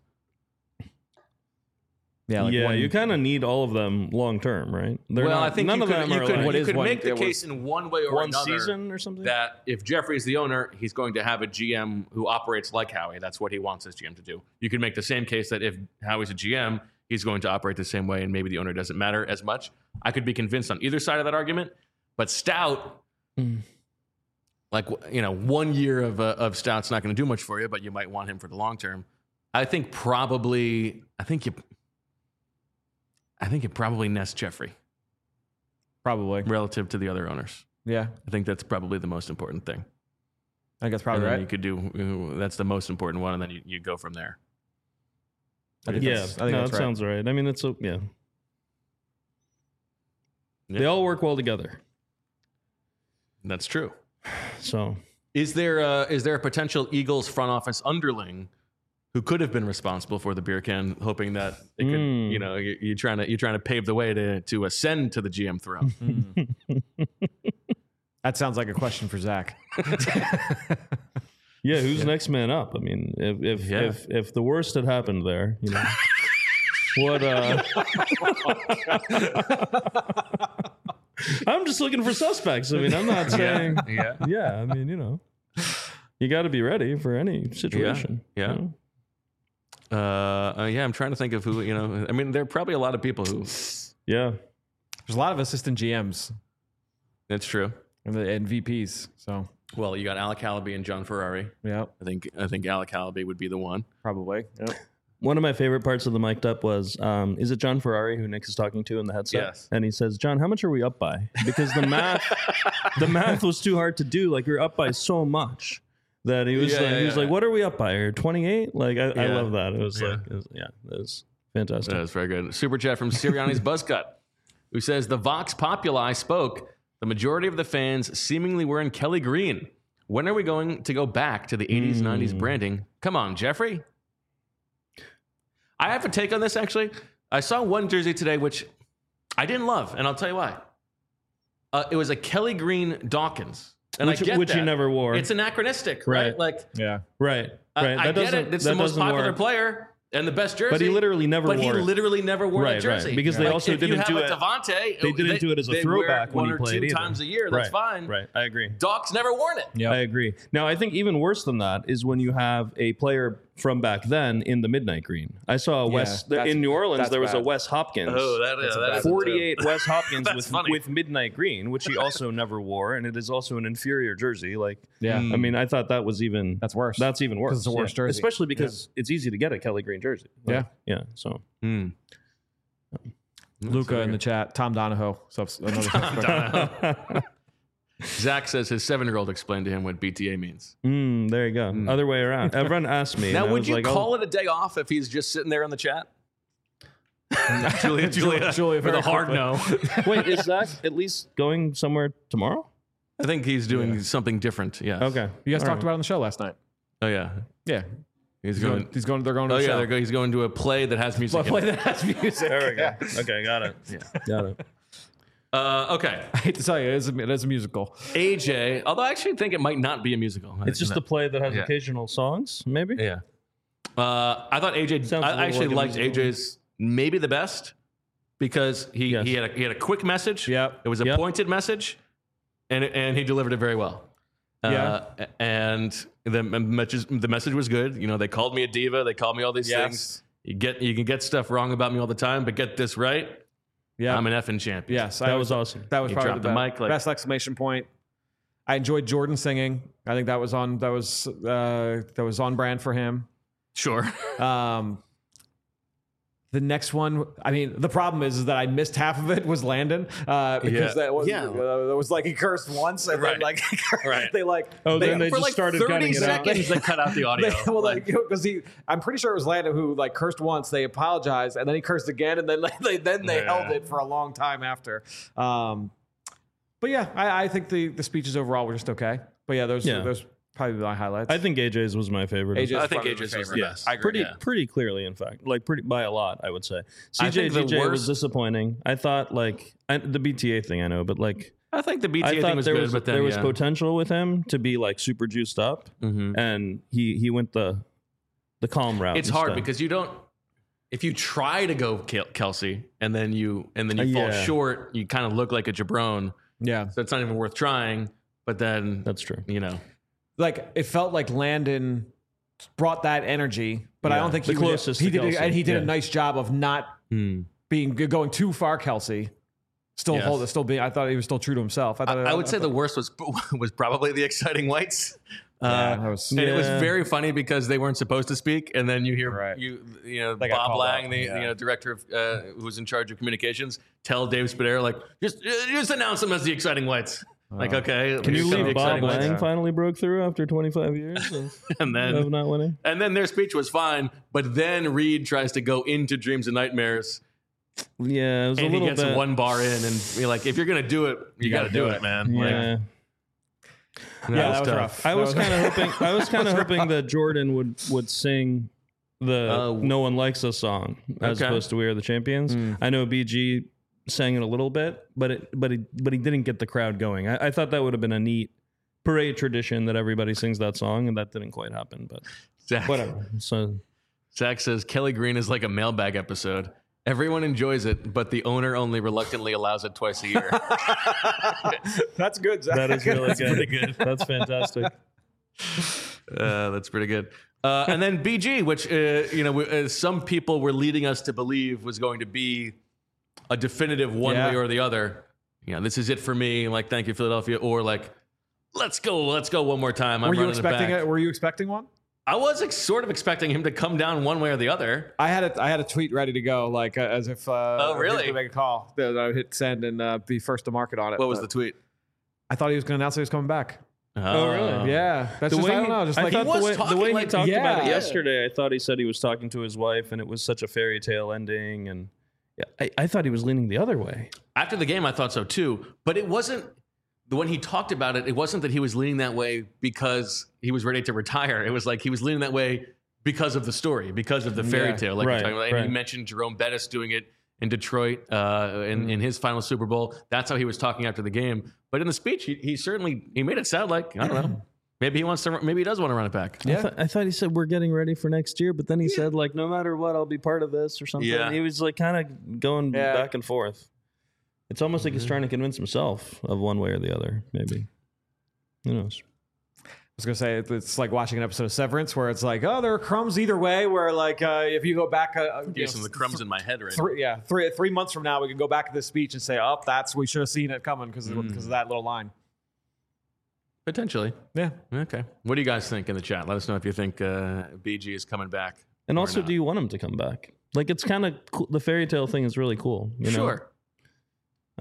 Yeah, like yeah, one- you kind of need all of them long term, right? They're well, not- I think none you of could, them you are could, like What you is could one- make the it was case in one way or one another season or something. that if Jeffrey's the owner, he's going to have a G M who operates like Howie. That's what he wants his G M to do. You could make the same case that if Howie's a G M, he's going to operate the same way, and maybe the owner doesn't matter as much. I could be convinced on either side of that argument, but Stout. Mm. Like, you know, one year of uh, of Stout's not going to do much for you, but you might want him for the long term. I think probably, I think you, I think it probably nests Jeffrey probably. relative to the other owners. Yeah, I think that's probably the most important thing. I think that's probably and then right. you could do, that's the most important one, and then you, you go from there. I think Yeah, that's- I think no, that's that right. sounds right. I mean, it's a, yeah. Yeah. They all work well together. That's true. So Is there a, is there a potential Eagles front office underling who could have been responsible for the beer can, hoping that it could, Mm. you know, you- you're trying to you're trying to pave the way to to ascend to the G M throne? That sounds like a question for Zach. yeah, who's next man up? I mean, if if Yeah. if if the worst had happened there, you know, what? uh I'm just looking for suspects. I mean, I'm not saying. yeah. Yeah, I mean, you know, you got to be ready for any situation. yeah. you know? Uh, uh, yeah, I'm trying to think of who, you know, I mean, there are probably a lot of people who, yeah. There's a lot of assistant G Ms that's true. and, the, and V Ps. So Well, you got Alec Halaby and John Ferrari. yeah, I think, I think Alec Halaby would be the one. probably. Yep. One of my favorite parts of the mic'd up was, um, is it John Ferrari who Nick is talking to in the headset? Yes. And he says, John, how much are we up by? Because the math, the math was too hard to do. Like you're up by so much that he was Yeah, like, yeah, he was yeah. like, what are we up by? Or twenty-eight? Like I, I Yeah. love that. It was Yeah. like, it was, yeah, it was fantastic. That was very good. Super chat from Sirianni's Buzzcut, who says the Vox Populi spoke. The majority of the fans seemingly were in Kelly Green. When are we going to go back to the eighties, Mm. nineties branding? Come on, Jeffrey. I have a take on this, actually. I saw one jersey today, which I didn't love, and I'll tell you why. Uh, it was a Kelly Green Dawkins. And Which- I get which that. he never wore. It's anachronistic, right? Right. Like, Yeah. right. I- Right. I, that get doesn't, it. It's that the most doesn't popular work. player and the best jersey. But he literally never But he wore it. literally never wore Right, that jersey. right. Because they Like, also if you didn't have do a it- Devontae, they didn't do it as a they wear throwback when one he or played two either. times a year. That's right. fine. Right. I agree. Doc's never worn it. Yep. I agree. Now, I think even worse than that is when you have a player from back then in the midnight green. I saw a Yeah, Wes that's- in New Orleans. that's There was a bad. Wes Hopkins. Oh, that is That's a that bad is a- forty-eight Wes Hopkins That's with funny. with midnight green, which he also never wore, and it is also an inferior jersey. Like, Yeah. Mm. I mean, I thought that was even That's worse. That's even worse. 'Cause it's a worse yeah. jersey. especially because it's easy to get a Kelly Green jersey. Like, yeah. So Hmm. Luca in the chat. Tom Donahoe. So another suspect. Zach says his seven-year-old explained to him what B T A means. Mm, there you go. Other way around. Everyone asked me. Now, and I would was you like, call oh, it a day off if he's just sitting there in the chat? Julia, Julia, Julia with very a hard quickly. no. Wait, is Zach at least going somewhere tomorrow? I think he's doing something different. Yes. Okay. You guys All talked right. about it on the show last night. Oh yeah. Yeah. He's, He's going. going, he's going, they're going to Oh the yeah, show. they're go, he's going to a play that has music. Well, play in it. that has music. There we go. Okay, got it. Yeah. Got it. Uh, okay. I hate to tell you, it is a, it is a musical. A J. Although I actually think it might not be a musical. It's just No. the play that has Yeah. occasional songs, maybe? Yeah. Uh, I thought A J. Sounds a I little actually like a liked musical. A J's maybe the best because he, Yes. he had a he had a quick message. Yep. It was a Yep. pointed message, and and he delivered it very well. Uh, and the message the message was good. You know, they called me a diva. They called me all these Yes. things. You get you can get stuff wrong about me all the time, but get this right. Yeah. I'm an effing champion. Yes. That I was awesome. That was He probably dropped the, the best, mic, like- best exclamation point. I enjoyed Jordan singing. I think that was on that was uh, that was on brand for him. Sure. Um, the next one, I mean, the problem is, is that I missed half of it was Landon uh, because Yeah. that was Yeah. uh, that was like he cursed once and Right. then like Right. they like Oh, then they For just like started thirty cutting it out. seconds, they cut out the audio. They, well, like, because he, I'm pretty sure it was Landon who like cursed once. They apologized, and then he cursed again, and then like, they then they Yeah. held it for a long time after. Um, but yeah, I, I think the the speeches overall were just okay. But yeah, those Yeah. those probably my highlights. I think A J's was my favorite. A J's I think probably A J's my was the favorite. best. I agree. pretty yeah. pretty clearly, in fact, like pretty by a lot, I would say. I C J think the D J was worst- disappointing. I thought like I, the B T A thing, I know, but like I think the B T A I thing thought was there good, was but then there was yeah. potential with him to be like super juiced up, Mhm. and he he went the the calm route. It's hard instead. because you don't. If you try to go Kel- Kelsey and then you and then you Uh, fall yeah. short, you kind of look like a jabron. Yeah, So it's not even worth trying. But then that's true. you know, like it felt like Landon brought that energy, but I Yeah. don't think The he would- closest he to did, Kelsey. and he did Yeah. a nice job of not hmm. being going too far. Kelsey still Yes. hold, still being. I thought he was still true to himself. I, I, thought, I would say the worst was was probably the exciting whites. Yeah, Uh, that was- and it was Yeah. very funny because they weren't supposed to speak, and then you hear Right. you you know They got Bob called Lang, out, the yeah. you know director of uh, who was in charge of communications, tell Dave Spadero like just uh, just announce them as the exciting whites. Like okay, Can you here come the believe Bob exciting whites. Lang Yeah. finally broke through after twenty-five years of, and then of not winning? And then their speech was fine, but then Reed tries to go into Dreams and Nightmares, Yeah, it was a and he little gets bit. one bar in, and be like, if you're gonna do it, you, got to do it, man. Like, Yeah, yeah, that was tough. rough. I That was kind of hoping. I was kind of hoping that Jordan would would sing the Uh, "No One Likes Us" song as Okay. opposed to "We Are the Champions." I know B G sang it a little bit, but it but he but he didn't get the crowd going. I, I thought that would have been a neat parade tradition that everybody sings that song, and that didn't quite happen. But Zach, whatever. So Zach says Kelly Green is like a mailbag episode. Everyone enjoys it, but the owner only reluctantly allows it twice a year. That's good. Zach. that is really That's good. pretty good. That's fantastic. Uh, that's pretty good. Uh, and then B G, which uh, you know, uh, some people were leading us to believe was going to be a definitive one Yeah. way or the other. You know, this is it for me. Like, thank you, Philadelphia, or like, let's go, let's go one more time. I'm Were you running expecting it? Back. it? Were you expecting one? I was ex- sort of expecting him to come down one way or the other. I had a I had a tweet ready to go, like uh, as if uh, Oh, really? to make a call. That I would hit send and uh, be first to market on it. What was but the tweet? I thought he was going to announce he was coming back. Oh, really? Yeah, that's The just way I don't he- know. Just I like thought was the way, talking the way like- he talked about it yeah. yesterday, I thought he said he was talking to his wife, and it was such a fairy tale ending, and yeah, I, I thought he was leaning the other way. After the game, I thought so too. But it wasn't, when he talked about it, it wasn't that he was leaning that way because he was ready to retire. It was like he was leaning that way because of the story, because of the fairy Yeah. tale. Like Right, you're talking about. And right. he mentioned Jerome Bettis doing it in Detroit uh, in, in his final Super Bowl. That's how he was talking after the game. But in the speech, he, he certainly, he made it sound like, I don't know, maybe he wants to, maybe he does want to run it back. I, Yeah. th- I thought he said we're getting ready for next year, but then he said like no matter what, I'll be part of this or something. Yeah. He was like kind of going Yeah. back and forth. It's almost like he's Mm-hmm. trying to convince himself of one way or the other. Maybe. Who knows? I was gonna say it's like watching an episode of Severance where it's like, oh, there are crumbs either way. Where like uh, if you go back, uh, you Give know, some of the crumbs in my head right now. three, yeah, three three months from now, we can go back to this speech and say, oh, that's we should have seen it coming because Mm. because of that little line. Potentially. Yeah, Okay. What do you guys think in the chat? Let us know if you think uh, B G is coming back. And or also, not. do you want him to come back? Like it's kind of cool. The fairy tale thing is really cool. You know? Sure.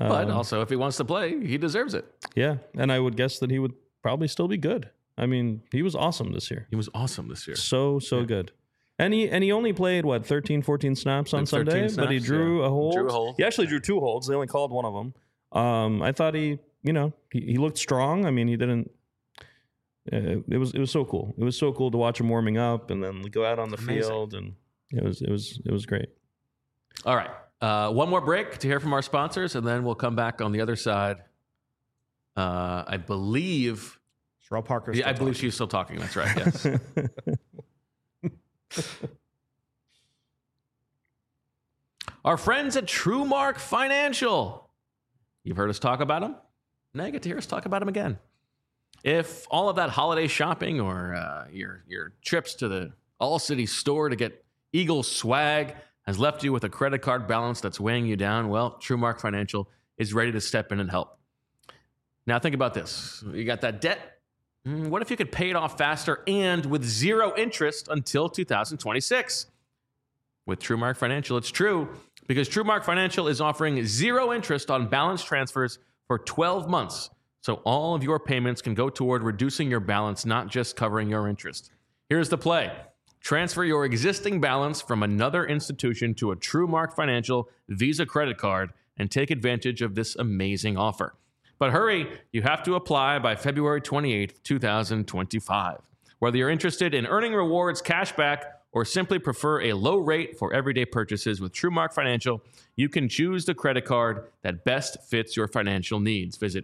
But Um, also, if he wants to play, he deserves it. yeah, and I would guess that he would probably still be good. I mean, he was awesome this year. He was awesome this year. So, so good. And he and he only played, what, thirteen, fourteen snaps on Like thirteen Sunday? snaps, but he drew yeah. a hold. Drew a hold. He actually drew two holds. They only called one of them. Um, I thought he, you know, he, he looked strong. I mean, he didn't. Uh, it was it was so cool. It was so cool to watch him warming up and then go out on the Amazing. field, and it was it was it was great. All right. Uh, one more break to hear from our sponsors, and then we'll come back on the other side. Uh, I believe. Sherelle Parker. Yeah, I believe she's still talking. That's right. Yes. Our friends at TrueMark Financial. You've heard us talk about them. Now you get to hear us talk about them again. If all of that holiday shopping or uh, your your trips to the All City store to get Eagles swag has left you with a credit card balance that's weighing you down, well, TrueMark Financial is ready to step in and help. Now think about this. You got that debt. Mm, What if you could pay it off faster and with zero interest until two thousand twenty-six? With TrueMark Financial, it's true, because TrueMark Financial is offering zero interest on balance transfers for twelve months. So all of your payments can go toward reducing your balance, not just covering your interest. Here's the play. Transfer your existing balance from another institution to a TrueMark Financial Visa credit card and take advantage of this amazing offer. But hurry, you have to apply by February twenty-eighth, twenty twenty-five. Whether you're interested in earning rewards, cash back, or simply prefer a low rate for everyday purchases with TrueMark Financial, you can choose the credit card that best fits your financial needs. Visit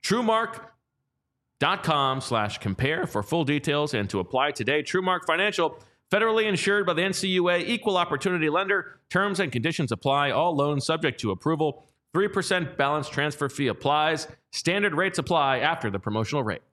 TrueMark.com slash compare for full details and to apply today. TrueMark Financial, federally insured by the N C U A, equal opportunity lender. Terms and conditions apply. All loans subject to approval. three percent balance transfer fee applies. Standard rates apply after the promotional rate.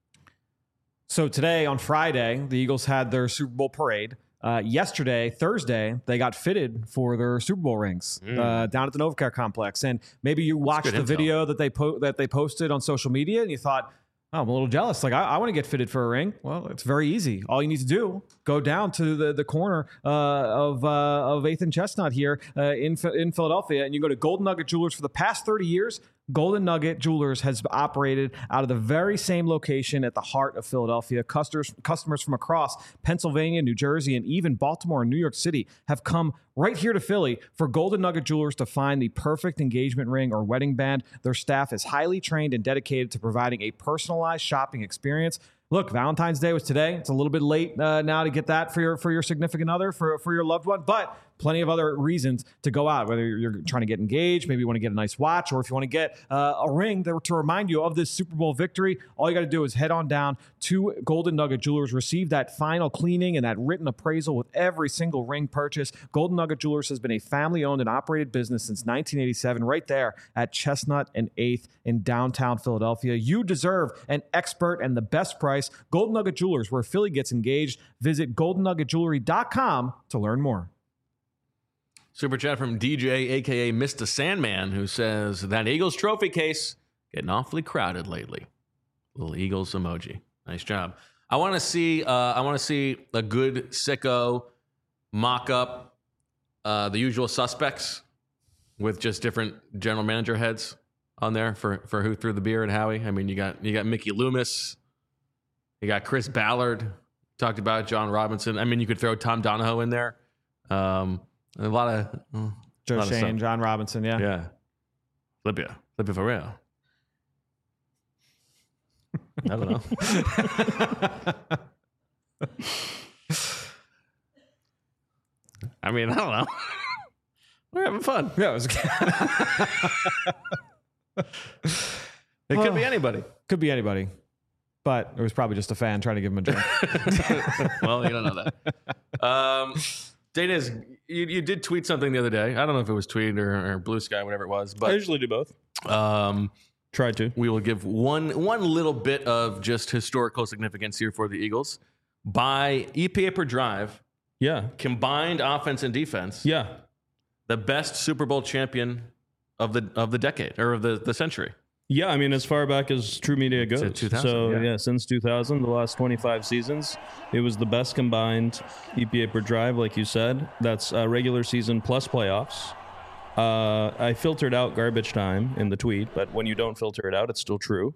So today, on Friday, the Eagles had their Super Bowl parade. Uh, yesterday, Thursday, they got fitted for their Super Bowl rings Mm. uh, down at the Novacare complex. And maybe you watched good the intel. video that they po- that they posted on social media, and you thought, "Oh, I'm a little jealous. Like, I, I want to get fitted for a ring." Well, it's very easy. All you need to do, go down to the, the corner uh, of uh, of eighth and Chestnut here uh, in in Philadelphia, and you go to Golden Nugget Jewelers. For the past thirty years, Golden Nugget Jewelers has operated out of the very same location at the heart of Philadelphia. Customers, customers from across Pennsylvania, New Jersey, and even Baltimore and New York City have come right here to Philly for Golden Nugget Jewelers to find the perfect engagement ring or wedding band. Their staff is highly trained and dedicated to providing a personalized shopping experience. Look, Valentine's Day was today. It's a little bit late uh, now to get that for your for your significant other, for, for your loved one, but plenty of other reasons to go out, whether you're trying to get engaged, maybe you want to get a nice watch, or if you want to get uh, a ring that, to remind you of this Super Bowl victory. All you got to do is head on down to Golden Nugget Jewelers, receive that final cleaning and that written appraisal with every single ring purchase. Golden Nugget Jewelers has been a family-owned and operated business since nineteen eighty-seven, right there at Chestnut and eighth in downtown Philadelphia. You deserve an expert and the best price. Golden Nugget Jewelers, where Philly gets engaged. Visit golden nugget jewelry dot com to learn more. Super chat from D J, a k a. Mister Sandman, who says, that Eagles trophy case getting awfully crowded lately. Little Eagles emoji. Nice job. I want to see uh, I want to see a good sicko mock up uh, the usual suspects with just different general manager heads on there for, for who threw the beer at Howie. I mean, you got you got Mickey Loomis, you got Chris Ballard, talked about John Robinson. I mean, you could throw Tom Donahoe in there. Um, a lot of uh, Joe lot of Shane, stuff. John Robinson, yeah. Yeah. Libya. Libya for real. I don't know. I mean, I don't know. We're having fun. Yeah, it was It could be anybody. could be anybody, but it was probably just a fan trying to give him a drink. Well, you don't know that. Um, Dana's, you, you did tweet something the other day. I don't know if it was tweet or, or Blue Sky, whatever it was, I but usually do both. um, Try to. we will give one one little bit of just historical significance here for the Eagles. By E P A per drive, Yeah. combined offense and defense, Yeah. the best Super Bowl champion of the of the decade or of the, the century. Yeah, I mean, as far back as True Media goes. Since two thousand, so, yeah. yeah. since two thousand, the last twenty-five seasons, it was the best combined E P A per drive, like you said. That's uh, regular season plus playoffs. Uh, I filtered out garbage time in the tweet, but when you don't filter it out, it's still true.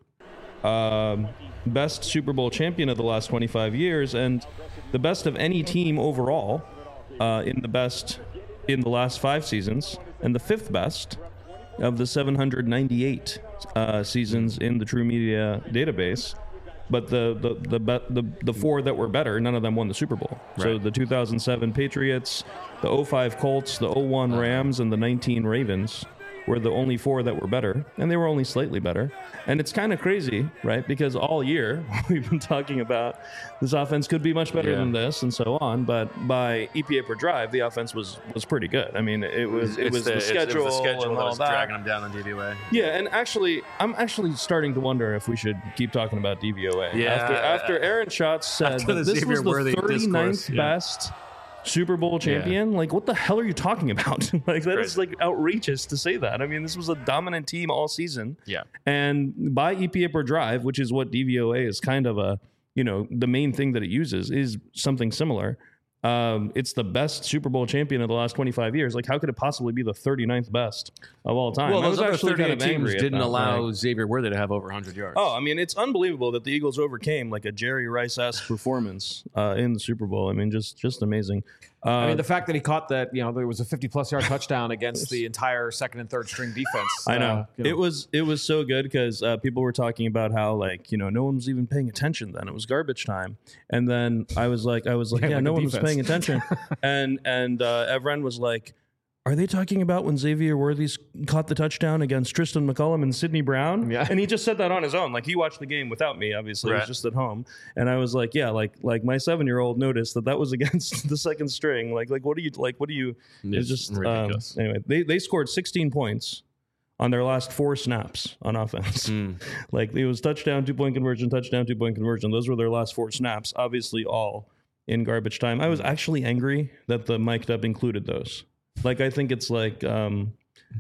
Um, best Super Bowl champion of the last twenty-five years, and the best of any team overall uh, in the best in the last five seasons, and the fifth best of the seven hundred ninety-eight uh, seasons in the True Media database. But the the, the the the four that were better, none of them won the Super Bowl. Right. So the two thousand seven Patriots, the oh five Colts, the oh one Rams, and the nineteen Ravens were the only four that were better, and they were only slightly better. And it's kind of crazy, right? Because all year we've been talking about this offense could be much better yeah. than this, and so on. But by E P A per drive, the offense was was pretty good. I mean, it was it was the, the schedule, it was the schedule and that all was that. dragging them down on D V O A. Yeah, and actually, I'm actually starting to wonder if we should keep talking about D V O A. Yeah, after, after Aaron Schatz said that this was the thirty-ninth yeah. best Super Bowl champion. Yeah. Like, what the hell are you talking about? Like, that Crazy. Is like outrageous to say that. I mean, this was a dominant team all season. Yeah. And by E P A per drive, which is what D V O A is kind of a, you know, the main thing that it uses is something similar. Um, it's the best Super Bowl champion of the last twenty-five years. Like, how could it possibly be the thirty-ninth best of all time? Well, I those was other actually thirty-eight kind of teams didn't that, allow like, Xavier Worthy to have over one hundred yards. Oh, I mean, it's unbelievable that the Eagles overcame like a Jerry Rice-esque performance uh, in the Super Bowl. I mean, just just amazing. Uh, I mean, the fact that he caught that, you know, there was a fifty-plus yard touchdown against the entire second and third string defense. I know. Uh, you know. It was it was so good because uh, people were talking about how, like, you know, no one was even paying attention then. It was garbage time. And then I was like, I was like, yeah, yeah like no one defense. was paying attention. and and uh, Evren was like, are they talking about when Xavier Worthy caught the touchdown against Tristan McCullum and Sidney Brown? Yeah. And he just said that on his own. Like, he watched the game without me, obviously. Right. He was just at home. And I was like, yeah, like like my seven-year-old noticed that that was against the second string. Like, like what do you, like, what do you, it's, it's just, ridiculous. Um, anyway, they, they scored sixteen points on their last four snaps on offense. Mm. Like, it was touchdown, two-point conversion, touchdown, two-point conversion. Those were their last four snaps, obviously all in garbage time. I was actually angry that the mic'd up included those. Like, I think it's like um,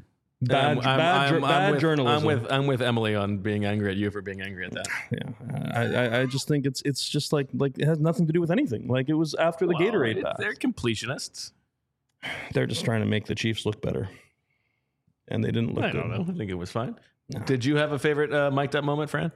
bad, I'm, bad, I'm, I'm, bad I'm with, journalism. I'm with I'm with Emily on being angry at you for being angry at that. Yeah, I, I, I just think it's it's just like like it has nothing to do with anything. Like, it was after the well, Gatorade it, pass. They're completionists. They're just trying to make the Chiefs look better, and they didn't look. I good. don't know. I think it was fine. No. Did you have a favorite uh, mic'd up moment, Fran?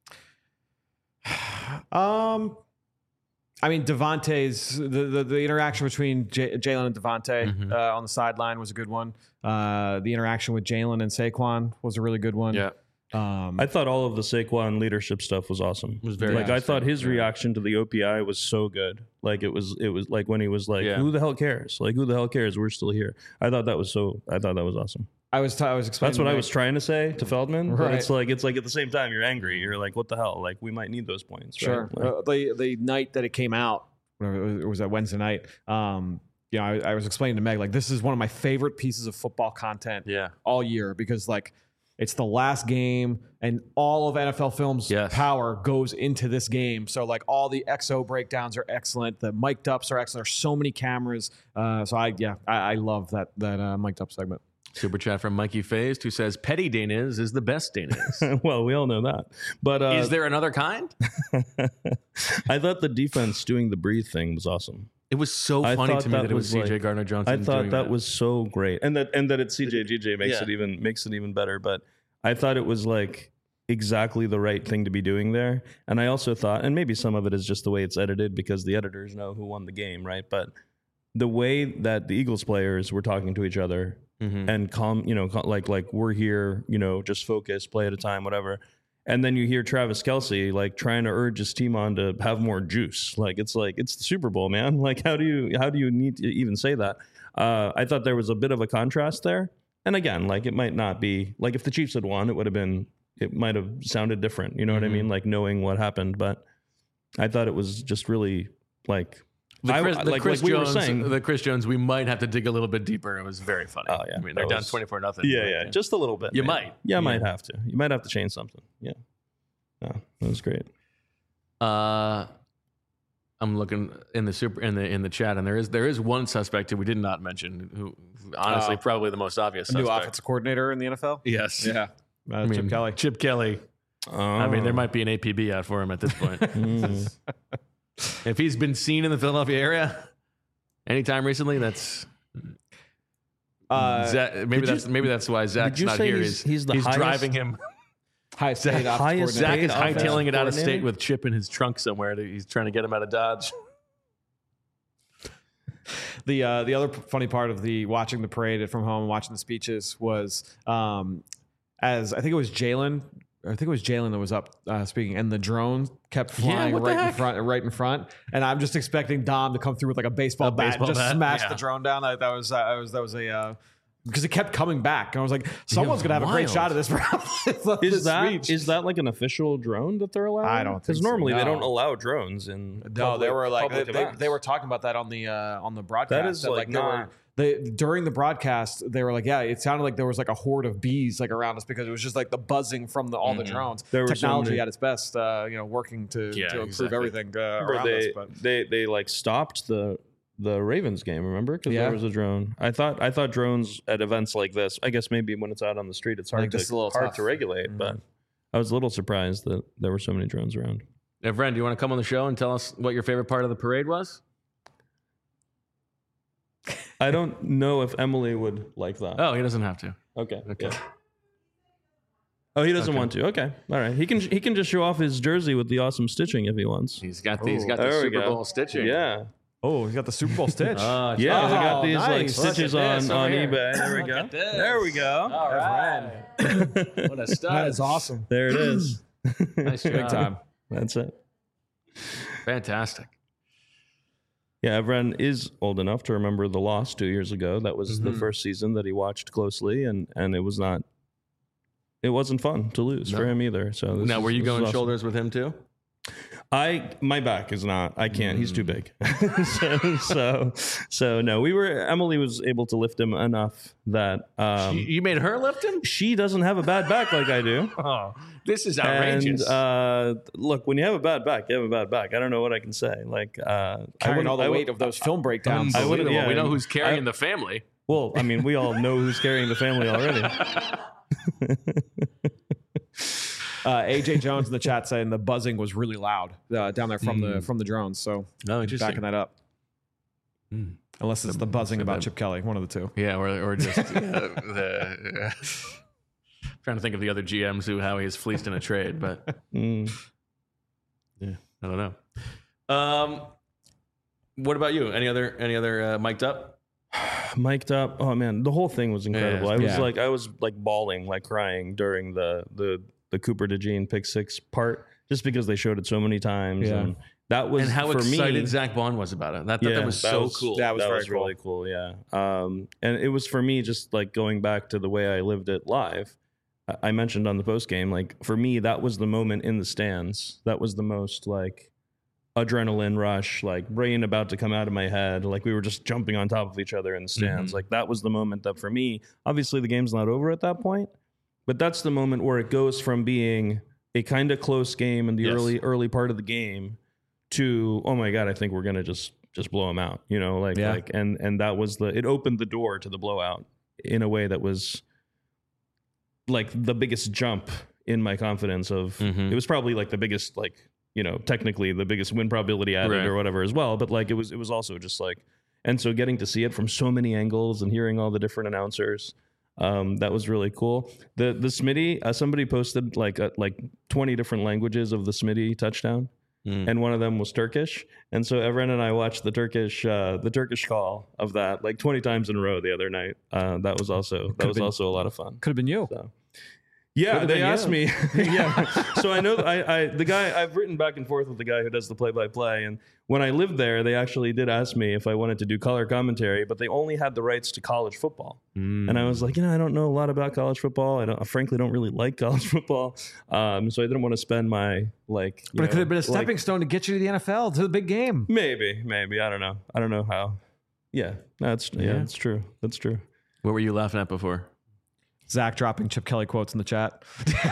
Um. I mean, Devontae's the, the, the interaction between J- Jalen and Devontae mm-hmm. uh, on the sideline was a good one. Uh, the interaction with Jalen and Saquon was a really good one. Yeah. Um, I thought all of the Saquon leadership stuff was awesome. It was very like I thought his yeah. reaction to the O P I was so good. Like, it was it was like when he was like, yeah. "Who the hell cares? Like, who the hell cares? We're still here." I thought that was so. I thought that was awesome. I was t- I was explaining. That's what I was trying to say to Feldman. Right. But it's like it's like at the same time you're angry. You're like, what the hell? Like, we might need those points. Sure. Right? Like, uh, the the night that it came out, it was that Wednesday night. Um, you know, I, I was explaining to Meg, like, this is one of my favorite pieces of football content yeah. all year, because, like, it's the last game and all of N F L Film's yes. power goes into this game. So, like, all the X O breakdowns are excellent. The mic'd ups are excellent. There's so many cameras. Uh, so I, yeah, I, I love that, that uh, mic'd up segment. Super chat from Mikey Phased, who says Petty Danes is the best Danes. Well, we all know that. But uh, is there another kind? I thought the defense doing the breathe thing was awesome. It was so I funny to me that, that it was C J like, Gardner Johnson. I thought doing that, that was so great, and that and that it's C J G J makes yeah. it even makes it even better. But I thought it was like exactly the right thing to be doing there. And I also thought, and maybe some of it is just the way it's edited because the editors know who won the game, right? But the way that the Eagles players were talking to each other. Mm-hmm. And calm, you know, like like we're here, you know, just focus, play at a time, whatever. And then you hear Travis Kelce like trying to urge his team on to have more juice. Like, it's like it's the Super Bowl, man. Like, how do you how do you need to even say that? Uh, I thought there was a bit of a contrast there. And again, like, it might not be like if the Chiefs had won, it would have been it might have sounded different. You know mm-hmm. what I mean? Like, knowing what happened, but I thought it was just really like. The Chris, I, the like, Chris like we Jones, were saying, the Chris Jones, we might have to dig a little bit deeper. It was very funny. Oh yeah, I mean, they're that down was, twenty-four nothing. Yeah, yeah, just a little bit. You man. might. Yeah, yeah, might have to. You might have to change something. Yeah, yeah, that was great. Uh, I'm looking in the super in the in the chat, and there is there is one suspect who we did not mention, who honestly uh, probably the most obvious. New suspect. offensive coordinator in the N F L. Yes. Yeah. Uh, I mean, Chip Kelly. Chip Kelly. Oh. I mean, there might be an A P B out for him at this point. mm. If he's been seen in the Philadelphia area anytime recently, that's Uh, Zach, maybe did you- that's maybe that's why Zach's you not say here. he's- He's, he's the he's highest- driving him. highest paid offensive highest Zach coordinator. is Paid offensive hightailing it out of state coordinator? with Chip in his trunk somewhere. He's trying to get him out of Dodge. The uh, the other p- funny part of the watching the parade from home, watching the speeches was um, as I think it was Jalen. I think it was Jalen that was up uh, speaking, and the drone kept flying what the right in heck? front, right in front. And I'm just expecting Dom to come through with like a baseball A bat, baseball and just bat? smash Yeah. the drone down. That, that was uh, that was that was a uh, because it kept coming back. And I was like, someone's gonna have a great wild. shot of this. Is that is that like an official drone that they're allowing? I don't think because so, normally they no. don't allow drones in. No, public- they were like they, public they, events. they were talking about that on the uh, on the broadcast. That is, like, they not- were they during the broadcast they were like, yeah, it sounded like there was like a horde of bees like around us because it was just like the buzzing from the, all the drones. There were so Technology many- at its best, uh, you know, working to, Yeah, to improve exactly. everything uh, Remember around us. they, But they they like stopped the the Ravens game. Remember, because Yeah. there was a drone. I thought I thought drones at events like this. I guess maybe when it's out on the street, it's hard think to this is a little hard tough. to regulate. But I was a little surprised that there were so many drones around. Evren, do you want to come on the show and tell us what your favorite part of the parade was? I don't know if Emily would like that. Oh, he doesn't have to. okay. Okay. Yeah. Oh, he doesn't Okay. want to. Okay, all right. He can he can just show off his jersey with the awesome stitching if he wants. He's got the, he's got the There we Super go. Bowl stitching. Yeah, oh, he's got the Super Bowl stitch. Oh, yeah. Oh, we got these like nice. Look at stitches this on on over here. eBay. There we Look go. at this. There we go. All right. What a stud. that is awesome. There it is. Nice Big job. time. That's it. Fantastic. Yeah, Evren is old enough to remember the loss two years ago. That was Mm-hmm. the first season that he watched closely, and and it was not. It wasn't fun to lose No. for him either. So this Now, is- were you this is going awesome. shoulders with him too? I my back is not. I can't. He's Mm. too big. so, so so no. We were. Emily was able to lift him enough that um, you, you made her lift him? she doesn't have a bad back like I do. Oh, this is And outrageous. uh, look, when you have a bad back, you have a bad back. I don't know what I can say. Like uh, I Carrying wouldn't- all the I would- weight of those film breakdowns. I wouldn't- Unbelievable. yeah, we know and who's carrying I- the family. Well, I mean, we all know who's carrying the family already. Uh, A J Jones in the chat saying the buzzing was really loud uh, down there from the from the drones. So Oh, interesting. backing that up. Mm. Unless it's the buzzing so about that- Chip Kelly, one of the two. Yeah, or, or just uh, the. Uh, trying to think of the other G Ms who how he is fleeced in a trade, but Mm. yeah, I don't know. Um, what about you? Any other any other uh, mic'd up? Mic'd up. Oh man, the whole thing was incredible. Yeah, I was yeah. like, I was like bawling, like crying during the the the Cooper DeJean pick six part, just because they showed it so many times. Yeah. And that was And how for excited me. Zach Bond was about it. I thought that was so cool. that was very really cool. Yeah, um, and it was for me just like going back to the way I lived it live. I- I mentioned on the post game, like for me, that was the moment in the stands. That was the most like adrenaline rush, like brain about to come out of my head. Like we were just jumping on top of each other in the stands. Mhm. Like that was the moment that for me, obviously the game's not over at that point, but that's the moment where it goes from being a kind of close game in the Yes. early early part of the game to, oh my God, I think we're gonna just just blow them out. You know, like Yeah. like and and that was the it opened the door to the blowout in a way that was like the biggest jump in my confidence of Mhm. it was probably like the biggest like you know technically the biggest win probability added Right. or whatever as well, but like it was it was also just like, and so getting to see it from so many angles and hearing all the different announcers, um that was really cool. The the Smitty, uh, somebody posted like uh, like twenty different languages of the Smitty touchdown. Mm. And one of them was Turkish, and so Evren and I watched the Turkish, uh, the Turkish call of that like twenty times in a row the other night. Uh, that was also that Could've was been- also a lot of fun. Could have been you. So, yeah, Could've they been asked you. me. yeah, so I know I, I the guy I've written back and forth with the guy who does the play by play, and when I lived there, they actually did ask me if I wanted to do color commentary, but they only had the rights to college football, Mm. and I was like, you know, I don't know a lot about college football. I don't, I frankly don't really like college football, um, so I didn't want to spend my like. you But it could know, have been a like- stepping stone to get you to the N F L, to the big game. Maybe, maybe I don't know. I don't know how. Yeah, that's yeah, Yeah. that's true. That's true. What were you laughing at before? Zach dropping Chip Kelly quotes in the chat.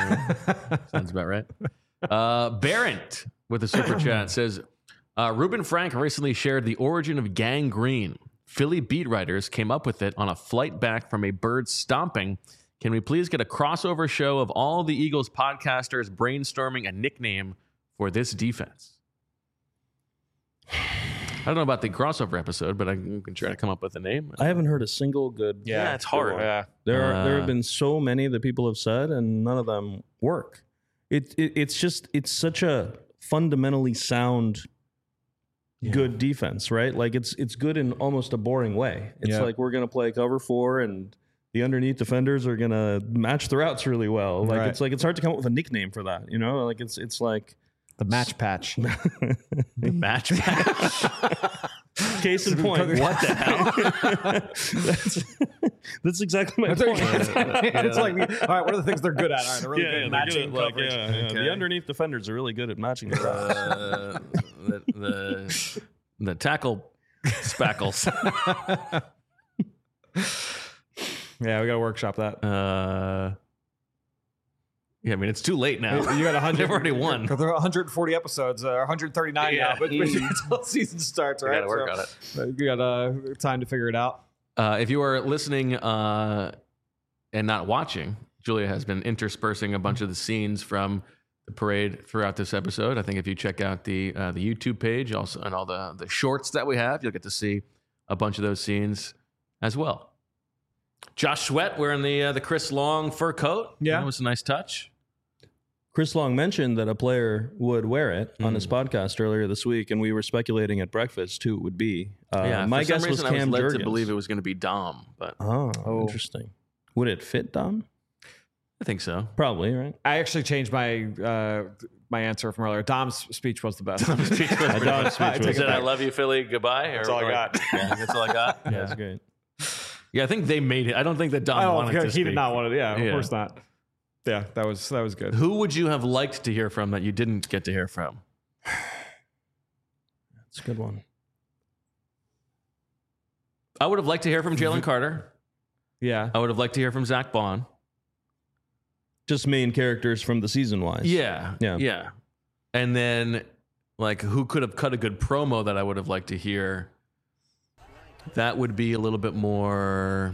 Sounds about right. Uh, Barrett with a super chat says, uh, Ruben Frank recently shared the origin of gangrene. Philly beat writers came up with it on a flight back from a bird stomping. Can we please get a crossover show of all the Eagles podcasters brainstorming a nickname for this defense? I don't know about the crossover episode, but I can try to come up with a name. I haven't heard a single good. Yeah, it's hard. Yeah. There are there Uh, have been so many that people have said, and none of them work. It, it it's just it's such a fundamentally sound, good defense, right? Like it's it's good in almost a boring way. It's Yeah. like we're gonna play cover four, and the underneath defenders are gonna match the routes really well. Like Right. it's like it's hard to come up with a nickname for that. You know, like it's it's like The match patch. The match match. case in point. What the hell? that's, that's exactly my point. It's like, all right, what are the things they're good at? All right, they're really good at matching like, coverage. yeah, yeah. Okay. The underneath defenders are really good at matching the routes. Uh, the, the the tackle spackles. Yeah, we got to workshop that. Uh, yeah, I mean it's too late now. You got one hundred. They've already won. There are one hundred forty episodes, uh, one hundred thirty-nine Yeah. now, but until the season starts, We right? gotta work on it. So, You got uh, time to figure it out. Uh, if you are listening uh, and not watching, Julia has been interspersing a bunch of the scenes from the parade throughout this episode. I think if you check out the uh, the YouTube page, also and all the the shorts that we have, you'll get to see a bunch of those scenes as well. Josh Sweat wearing the uh, the Chris Long fur coat. Yeah. That was a nice touch. Chris Long mentioned that a player would wear it on Mm. his podcast earlier this week, and we were speculating at breakfast who it would be. Uh, yeah, my for some guess was reason I was Cam led Jurgens. to believe it was going to be Dom, but Oh, Oh. interesting. Would it fit Dom? I think so. Probably, right? I actually changed my uh, my answer from earlier. Dom's speech was the best. Dom's speech I was- take it Said I back. love you, Philly. Goodbye. That's or all I like- got. Yeah, that's all I got. Yeah, Yeah, that's great. yeah. I think they made it. I don't think that Dom Oh, wanted to he speak. did not want it. Yeah, of Yeah. course not. Yeah, that was that was good. Who would you have liked to hear from that you didn't get to hear from? That's a good one. I would have liked to hear from Jalen Carter. Yeah, I would have liked to hear from Zach Bond. Just main characters from the season wise. Yeah, Yeah. yeah. And then, like, who could have cut a good promo that I would have liked to hear? That would be a little bit more.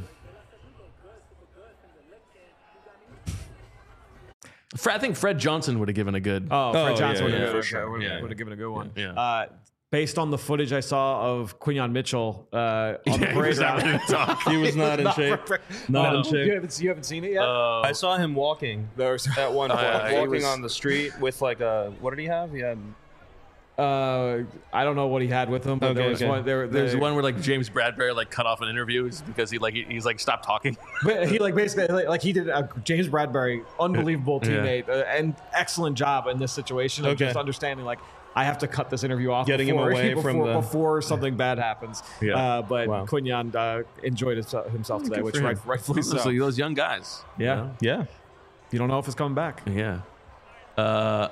Fred, I think Fred Johnson would have given a good. Oh, Fred Oh, Johnson yeah, would yeah, have for given, sure. would Yeah. have given a good one. Yeah. Uh, based on the footage I saw of Quinyon Mitchell uh, on Yeah, the he parade was not route. gonna talk. He was not in shape. Not No. in shape. You haven't, you haven't seen it yet? Uh, I saw him walking at one point, yeah, he walking was- on the street with like a, what did he have? He had, Uh, I don't know what he had with him, but Okay, there was okay. one. There, There's there- one where like James Bradbury like cut off an interview because he like he, he's like stopped talking. But he like basically like, like he did a James Bradbury, unbelievable Yeah. teammate, uh, and excellent job in this situation of Okay. just understanding like I have to cut this interview off, Getting him before, away before, from the- before something bad happens. Yeah. Uh, but Wow. Quinyon uh, enjoyed his, himself today, which for him. right, rightfully so. So those young guys. you Yeah. know? yeah. You don't know if it's coming back. Yeah. Uh,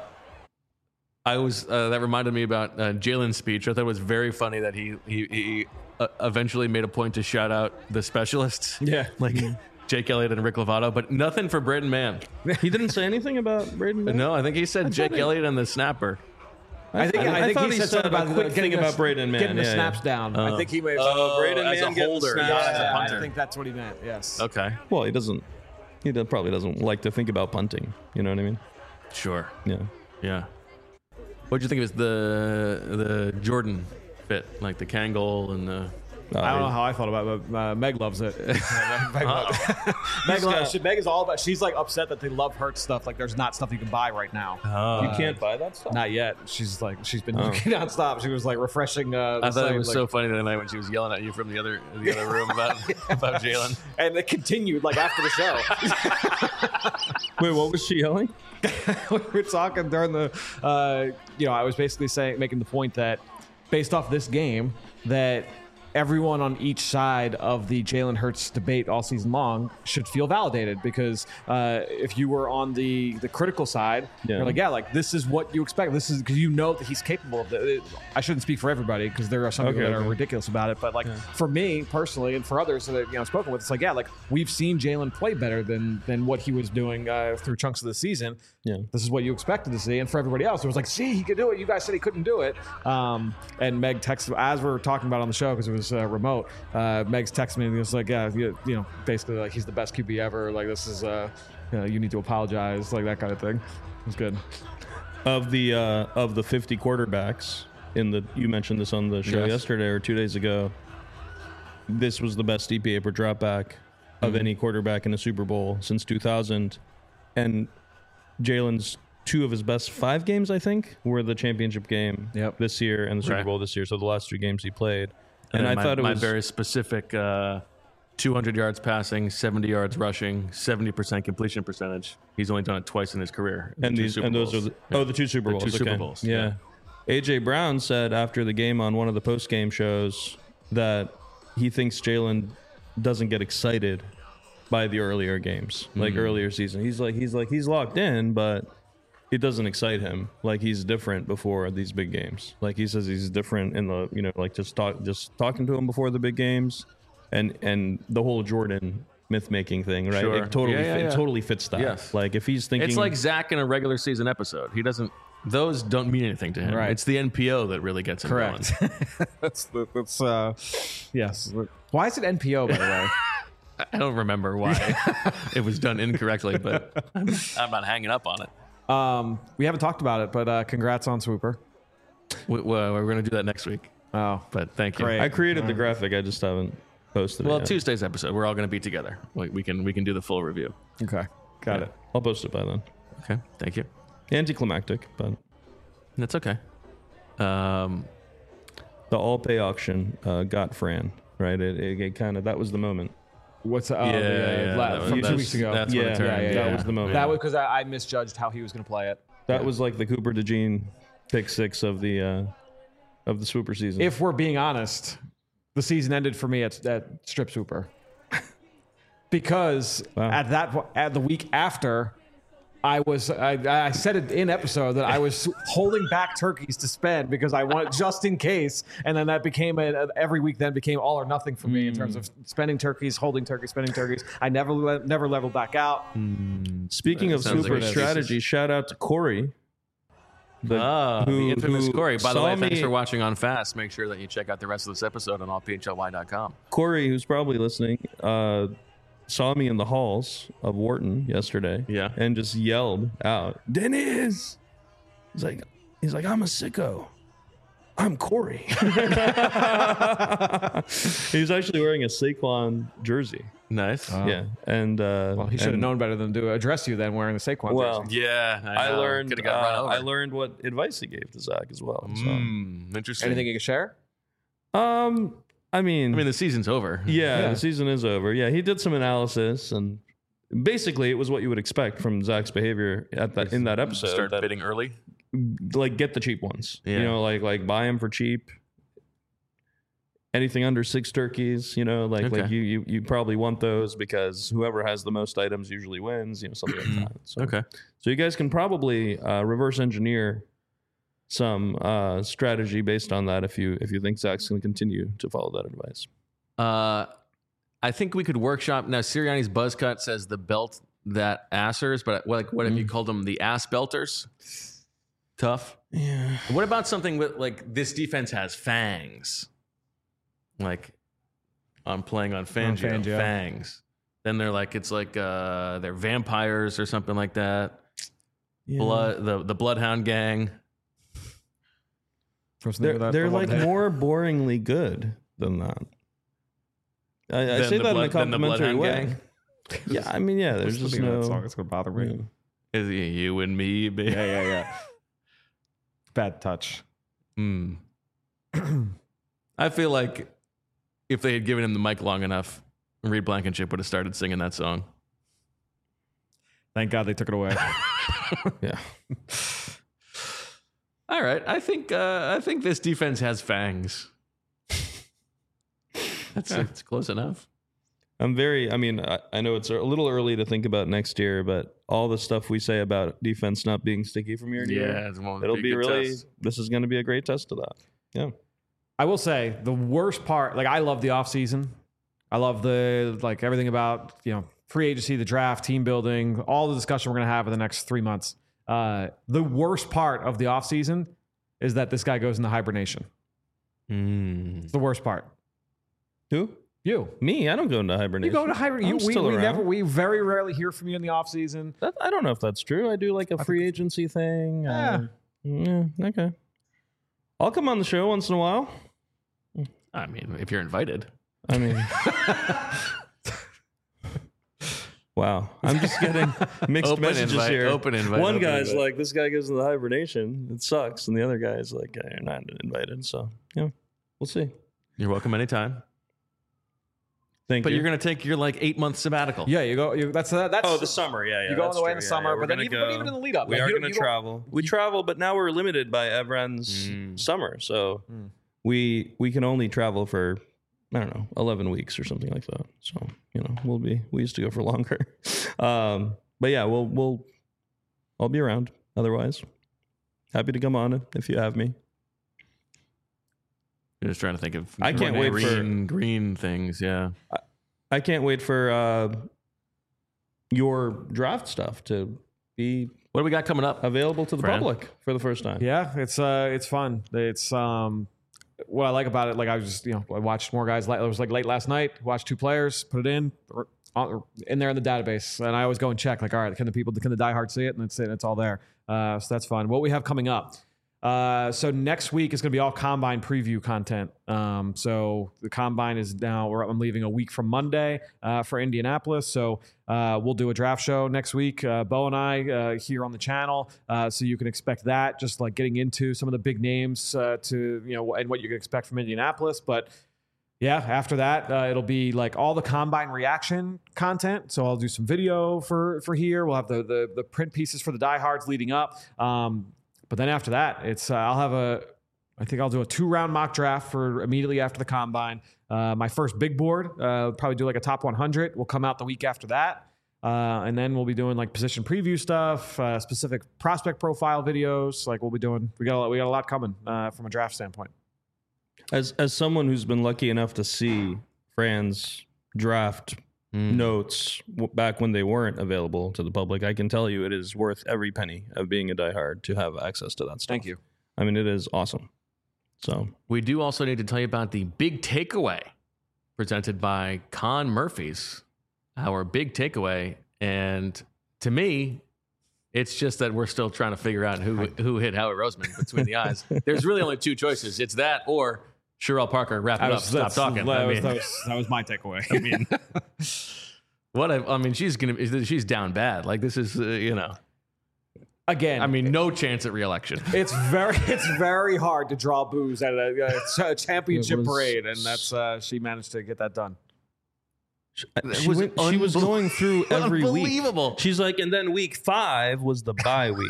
I was uh, that reminded me about uh, Jalen's speech. I thought it was very funny that he he, he uh, eventually made a point to shout out the specialists. Yeah. like Jake Elliott and Rick Lovato, but nothing for Braden Mann. He didn't say anything about Braden Mann? No, I think he said Jake he- Elliott and the snapper. I think I, I think thought he he said said something a about quick the- thing getting the- about Braden Mann, getting the yeah, snaps yeah. down. I think he may have Oh, Braden as Mann a getting the holder, snaps. not as a Yeah, punter. I think that's what he meant. Yes. Okay, Well, he doesn't, he do- probably doesn't like to think about punting. You know what I mean? sure. Yeah. Yeah. What'd you think of his, the the Jordan fit, like the Kangol and the? Uh, I don't know how I thought about it, but uh, Meg loves it. Meg, loves it. Meg, loves, she, Meg is all about. She's like upset that they love Hurt stuff. Like there's not stuff you can buy right now. You can't buy that stuff? Not yet. She's like she's been looking nonstop. She was like refreshing. Uh, the I thought site, it was like- so funny that night when she was yelling at you from the other the other room about about Jalen. and it continued like after the show. Wait, what was she yelling? we were talking during the, uh, you know, I was basically saying, making the point that based off this game, that everyone on each side of the Jalen Hurts debate all season long should feel validated because uh, if you were on the the critical side, Yeah. you're like, yeah, like this is what you expect. This is because you know that he's capable of it. I shouldn't speak for everybody because there are some people Okay, that are okay. ridiculous about it. But like for me personally, and for others that you know I've spoken with, it's like, yeah, like we've seen Jalen play better than than what he was doing uh, through chunks of the season. Yeah. This is what you expected to see. And for everybody else, it was like, see, he could do it. You guys said he couldn't do it. Um, and Meg texted, as we were talking about on the show, because it was uh, remote, uh, Meg's texted me and he was like, yeah, you, you know, basically like he's the best Q B ever. Like this is, uh, you know, you need to apologize, like that kind of thing. It was good. Of the uh, of the fifty quarterbacks, in the you mentioned this on the show Yes. yesterday or two days ago. This was the best E P A per dropback of Mm-hmm. any quarterback in a Super Bowl since two thousand, and Jalen's two of his best five games, I think, were the championship game Yep. this year and the Super Right. Bowl this year. So the last two games he played, and, And, I my, thought it my was very specific uh, two hundred yards passing, seventy yards rushing, seventy percent completion percentage. He's only done it twice in his career. and Two these Super and those Bowls. are the, oh the two Super The Bowls. two Super okay. Bowls, Yeah. A J Brown said after the game on one of the post game shows that he thinks Jalen doesn't get excited by the earlier games, like Mm. earlier season. He's like he's like he's locked in, but it doesn't excite him. Like he's different before these big games. Like he says he's different in the you know like just talk just talking to him before the big games, and and the whole Jordan myth making thing, right? Sure. It totally Yeah, yeah, fit, yeah. it totally fits that. Yes. Like if he's thinking It's like Zach in a regular season episode. He doesn't. Those don't mean anything to him. Right. It's the N P O that really gets him Correct. going. that's that's uh, yes. Why is it N P O, by the way? I don't remember why it was done incorrectly, but I'm, I'm not hanging up on it. Um, we haven't talked about it, but uh, congrats on Swooper. We, well, we're going to do that next week. Oh, But thank you. Great. I created the graphic. I just haven't posted Well, it yet. Tuesday's episode, we're all going to be together. We, we can we can do the full review. okay, got it. I'll post it by then. Okay, thank you. Anticlimactic, but That's okay. Um, the all pay auction uh, got Fran, right? It, it, it kind of that was the moment. What's uh, Yeah, the, uh, yeah, la- that was- from two that's- weeks ago? that's when it Yeah, turned. yeah, yeah, yeah. that was the moment. That was because I, I misjudged how he was going to play it. That was like the Cooper DeJean pick six of the uh, of the Swooper season. If we're being honest, the season ended for me at, at Strip Swooper because Wow. at that po- at the week after, I was I, I said it in episode that I was holding back turkeys to spend because I wanted just in case, and then that became a, every week then became all or nothing for me in terms of spending turkeys, holding turkeys, spending turkeys. I never le- never leveled back out. Speaking of Sounds like Swooper it is. strategy, shout out to Corey. The, ah, who- the infamous who Corey. By the saw way, thanks me- for watching on Fast. Make sure that you check out the rest of this episode on all p h l y dot com. Corey, who's probably listening, uh, saw me in the halls of Wharton yesterday. Yeah. And just yelled out, Dennis! He's like, he's like, I'm a sicko. I'm Corey. He was actually wearing a Saquon jersey. Nice. Yeah. And uh Well, he should have and- known better than to address you than wearing the Saquon Well, jersey. yeah, I know. learned Coulda got run uh, over. I learned what advice he gave to Zach as well. So. Mm, interesting. Anything you can share? Um I mean I mean, the season's over. Yeah, Yeah. the season is over. Yeah, he did some analysis, and basically, it was what you would expect from Zach's behavior at that in that episode. Start that, bidding early. like, get the cheap ones. Yeah. You know, like like buy them for cheap. Anything under six turkeys, you know, like Okay. like you, you you probably want those because whoever has the most items usually wins. You know, something like that. So, Okay. so you guys can probably uh, reverse engineer some uh, strategy based on that if you if you think Zach's going to continue to follow that advice. Uh, I think we could workshop now. Sirianni's buzz cut says the belt that assers, but what, like, what have you called them? The ass belters. Tough. Yeah. What about something with like this defense has fangs? Like I'm playing on Fangio, Fangio. fangs. Then they're like it's like uh, they're vampires or something like that. Blood, the the Bloodhound Gang. They're, they're like more boringly good than that. I, I Than say the that blood- in a than the complimentary Bloodhound way. Gang? Yeah, I mean, yeah, there's just no. It's gonna bother me. Yeah. Is it you and me, baby? Yeah, yeah, yeah. Bad touch. Hmm. I feel like if they had given him the mic long enough, Reed Blankenship would have started singing that song. Thank God they took it away. Yeah. All right, I think uh, I think this defense has fangs. That's it's close enough. I'm very, I mean, I, I know it's a little early to think about next year, but all the stuff we say about defense not being sticky from year to year, it's one- it'll a be good really, test. this is going to be a great test of that. Yeah. I will say the worst part, like I love the offseason. I love the like everything about, you know, free agency, the draft, team building, all the discussion we're gonna have in the next three months. Uh, the worst part of the offseason is that this guy goes into hibernation. Mm. It's the worst part. Who? You. Me? I don't go into You hibernation. go to hibernation. I'm You, we, still we around. never we very rarely hear from you in the offseason. That, I don't know if that's true. I do like a free agency thing. Uh, yeah, okay. I'll come on the show once in a while. I mean, if you're invited. I mean, wow. I'm just getting mixed Open messages invite, here. open invite, One open guy's invite. like, this guy goes into hibernation. It sucks. And the other guy's like, you're not invited. So, yeah, we'll see. You're welcome anytime. Thank But you. you're going to take your like eight month sabbatical. Yeah, you go. You, that's that's. Oh, the summer, yeah, yeah. You go on that's the way in true. the Yeah, summer, yeah, but we're then gonna even, go- but even in the lead up, We like, are you- going you to don't- travel. We travel, but now we're limited by Evran's Mm. summer. So Mm. we we can only travel for, I don't know, eleven weeks or something like that. So, you know, we'll be, we used to go for longer. um, but yeah, we'll, we'll, I'll be around otherwise. Happy to come on if you have me. I'm just trying to think of. I can't green, wait for- green, green things. Yeah. I can't wait for uh, your draft stuff to be What do we got coming up? available to the Fran? public for the first time. Yeah, it's uh, it's fun. It's um, what I like about it. Like I was just, you know, I watched more guys. It was like late last night. Watched two players, put it in, uh, in there in the database, and I always go and check. Like, all right, can the people, can the diehard see it? And it's it. It's all there. Uh, so that's fun. What we have coming up. Uh, so next week is going to be all combine preview content. Um, so the combine is now, we're, I'm leaving a week from Monday uh, for Indianapolis. So uh, we'll do a draft show next week. Uh, Bo and I uh, here on the channel. Uh, so you can expect that, just like getting into some of the big names uh, to, you know, and what you can expect from Indianapolis. But yeah, after that, uh, it'll be like all the combine reaction content. So I'll do some video for, for here. We'll have the, the, the print pieces for the diehards leading up. Um, But then after that, it's uh, I'll have a, I think I'll do a two round mock draft for immediately after the combine. Uh, my first big board, uh, probably do like a top one hundred. Will come out the week after that, uh, and then we'll be doing like position preview stuff, uh, specific prospect profile videos. Like we'll be doing, we got a, we got a lot coming uh, from a draft standpoint. As as someone who's been lucky enough to see Fran's draft Mm. notes w- back when they weren't available to the public, I can tell you it is worth every penny of being a diehard to have access to that stuff. Thank you. I mean, it is awesome. So We do also need to tell you about the big takeaway presented by Con Murphy's, our big takeaway. And to me, it's just that we're still trying to figure out who who hit Howie Roseman between the eyes. There's really only two choices. It's that or Sherelle Parker, wrap it That up, was- stop that's- talking. That, I was, mean, that, was, that was my takeaway. I mean, what I, I mean, she's gonna she's down bad. Like this is uh, you know, again, I mean, no chance at reelection. it's very it's very hard to draw booze at a, a championship It was- parade, and that's uh, she managed to get that done. she, was went, she was unbel- going through every week. Unbelievable. She's like, and then week five was the bye week.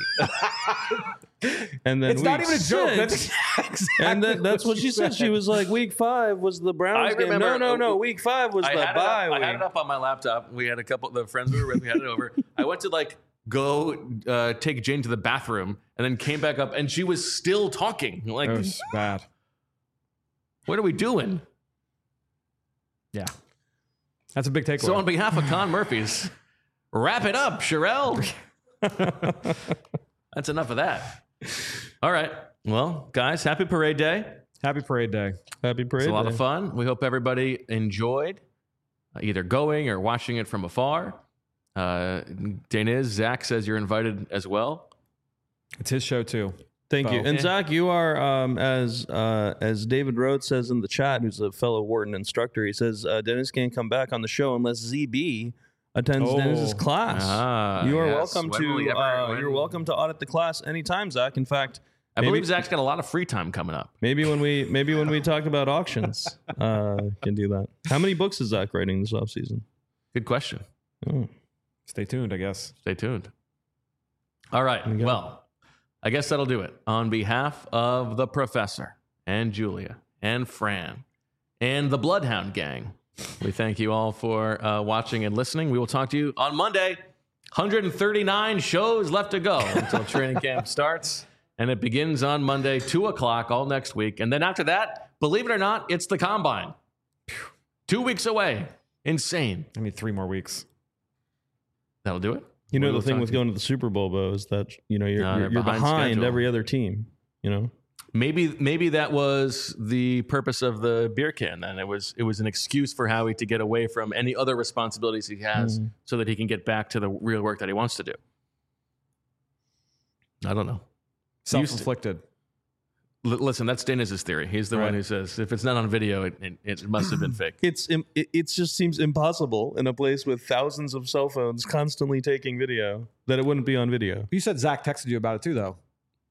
And then It's not week even a joke. six- That's exactly and then that's what she said. She was like, week five was the Browns I game. No, remember- no, no. Week five was I the had, it bye up, I had week. it up on my laptop. We had a couple the friends we were with. We had it over. I went to like go uh, take Jane to the bathroom, and then came back up, and she was still talking. Like, It was bad. what are we doing? Yeah, that's a big takeaway. So on behalf of Con Murphy's, wrap it up, Sherelle. That's enough of that. All right. Well, guys, happy parade day. Happy parade day. Happy parade It's a lot day. of fun. We hope everybody enjoyed uh, either going or watching it from afar. Uh, Daniz, Zach says you're invited as well. It's his show too. Thank you. Bo. And Yeah. Zach, you are, um, as uh, as David Rhodes says in the chat, who's a fellow Wharton instructor, he says, uh, Dennis can't come back on the show unless Z B attends Oh. Dennis's class. Ah, you are yes. welcome When will he to ever- uh, when- you're welcome to audit the class anytime, Zach. In fact, I maybe, believe Zach's got a lot of free time coming up. maybe when we maybe when we talk about auctions, uh, can do that. How many books is Zach writing this offseason? Good question. Oh. Stay tuned, I guess. Stay tuned. All right. we go. Well, I guess that'll do it. On behalf of the professor and Julia and Fran and the Bloodhound Gang, we thank you all for uh, watching and listening. We will talk to you on Monday. one hundred thirty-nine shows left to go until training camp starts. And it begins on Monday, two o'clock all next week. And then after that, believe it or not, it's the Combine. Two weeks away. Insane. I need three more weeks. That'll do it. You know We'll the thing talk with to you. going to the Super Bowl, Bo, is that you know you're No, you're, they're you're behind behind, schedule. every other team. You know, Maybe maybe that was the purpose of the beer can. Then it was it was an excuse for Howie to get away from any other responsibilities he has, Mhm. so that he can get back to the real work that he wants to do. I don't know. Self-inflicted. L- listen, that's Dennis's theory. He's the Right. one who says if it's not on video, it, it, it must have been fake. It's im- it, it just seems impossible in a place with thousands of cell phones constantly taking video that it wouldn't be on video. You said Zach texted you about it too, though.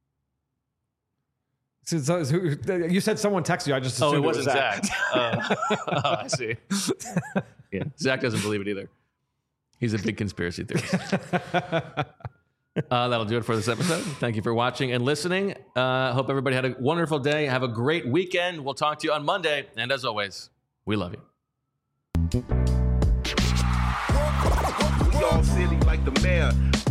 So, so, so, you said someone texted you. I just assumed Oh, it it was wasn't Zach. Zach. Uh, oh, I see. Yeah, Zach doesn't believe it either. He's a big conspiracy theorist. Uh, that'll do it for this episode. Thank you for watching and listening. Uh, hope everybody had a wonderful day. Have a great weekend. We'll talk to you on Monday. And as always, we love you. We all silly like the mayor.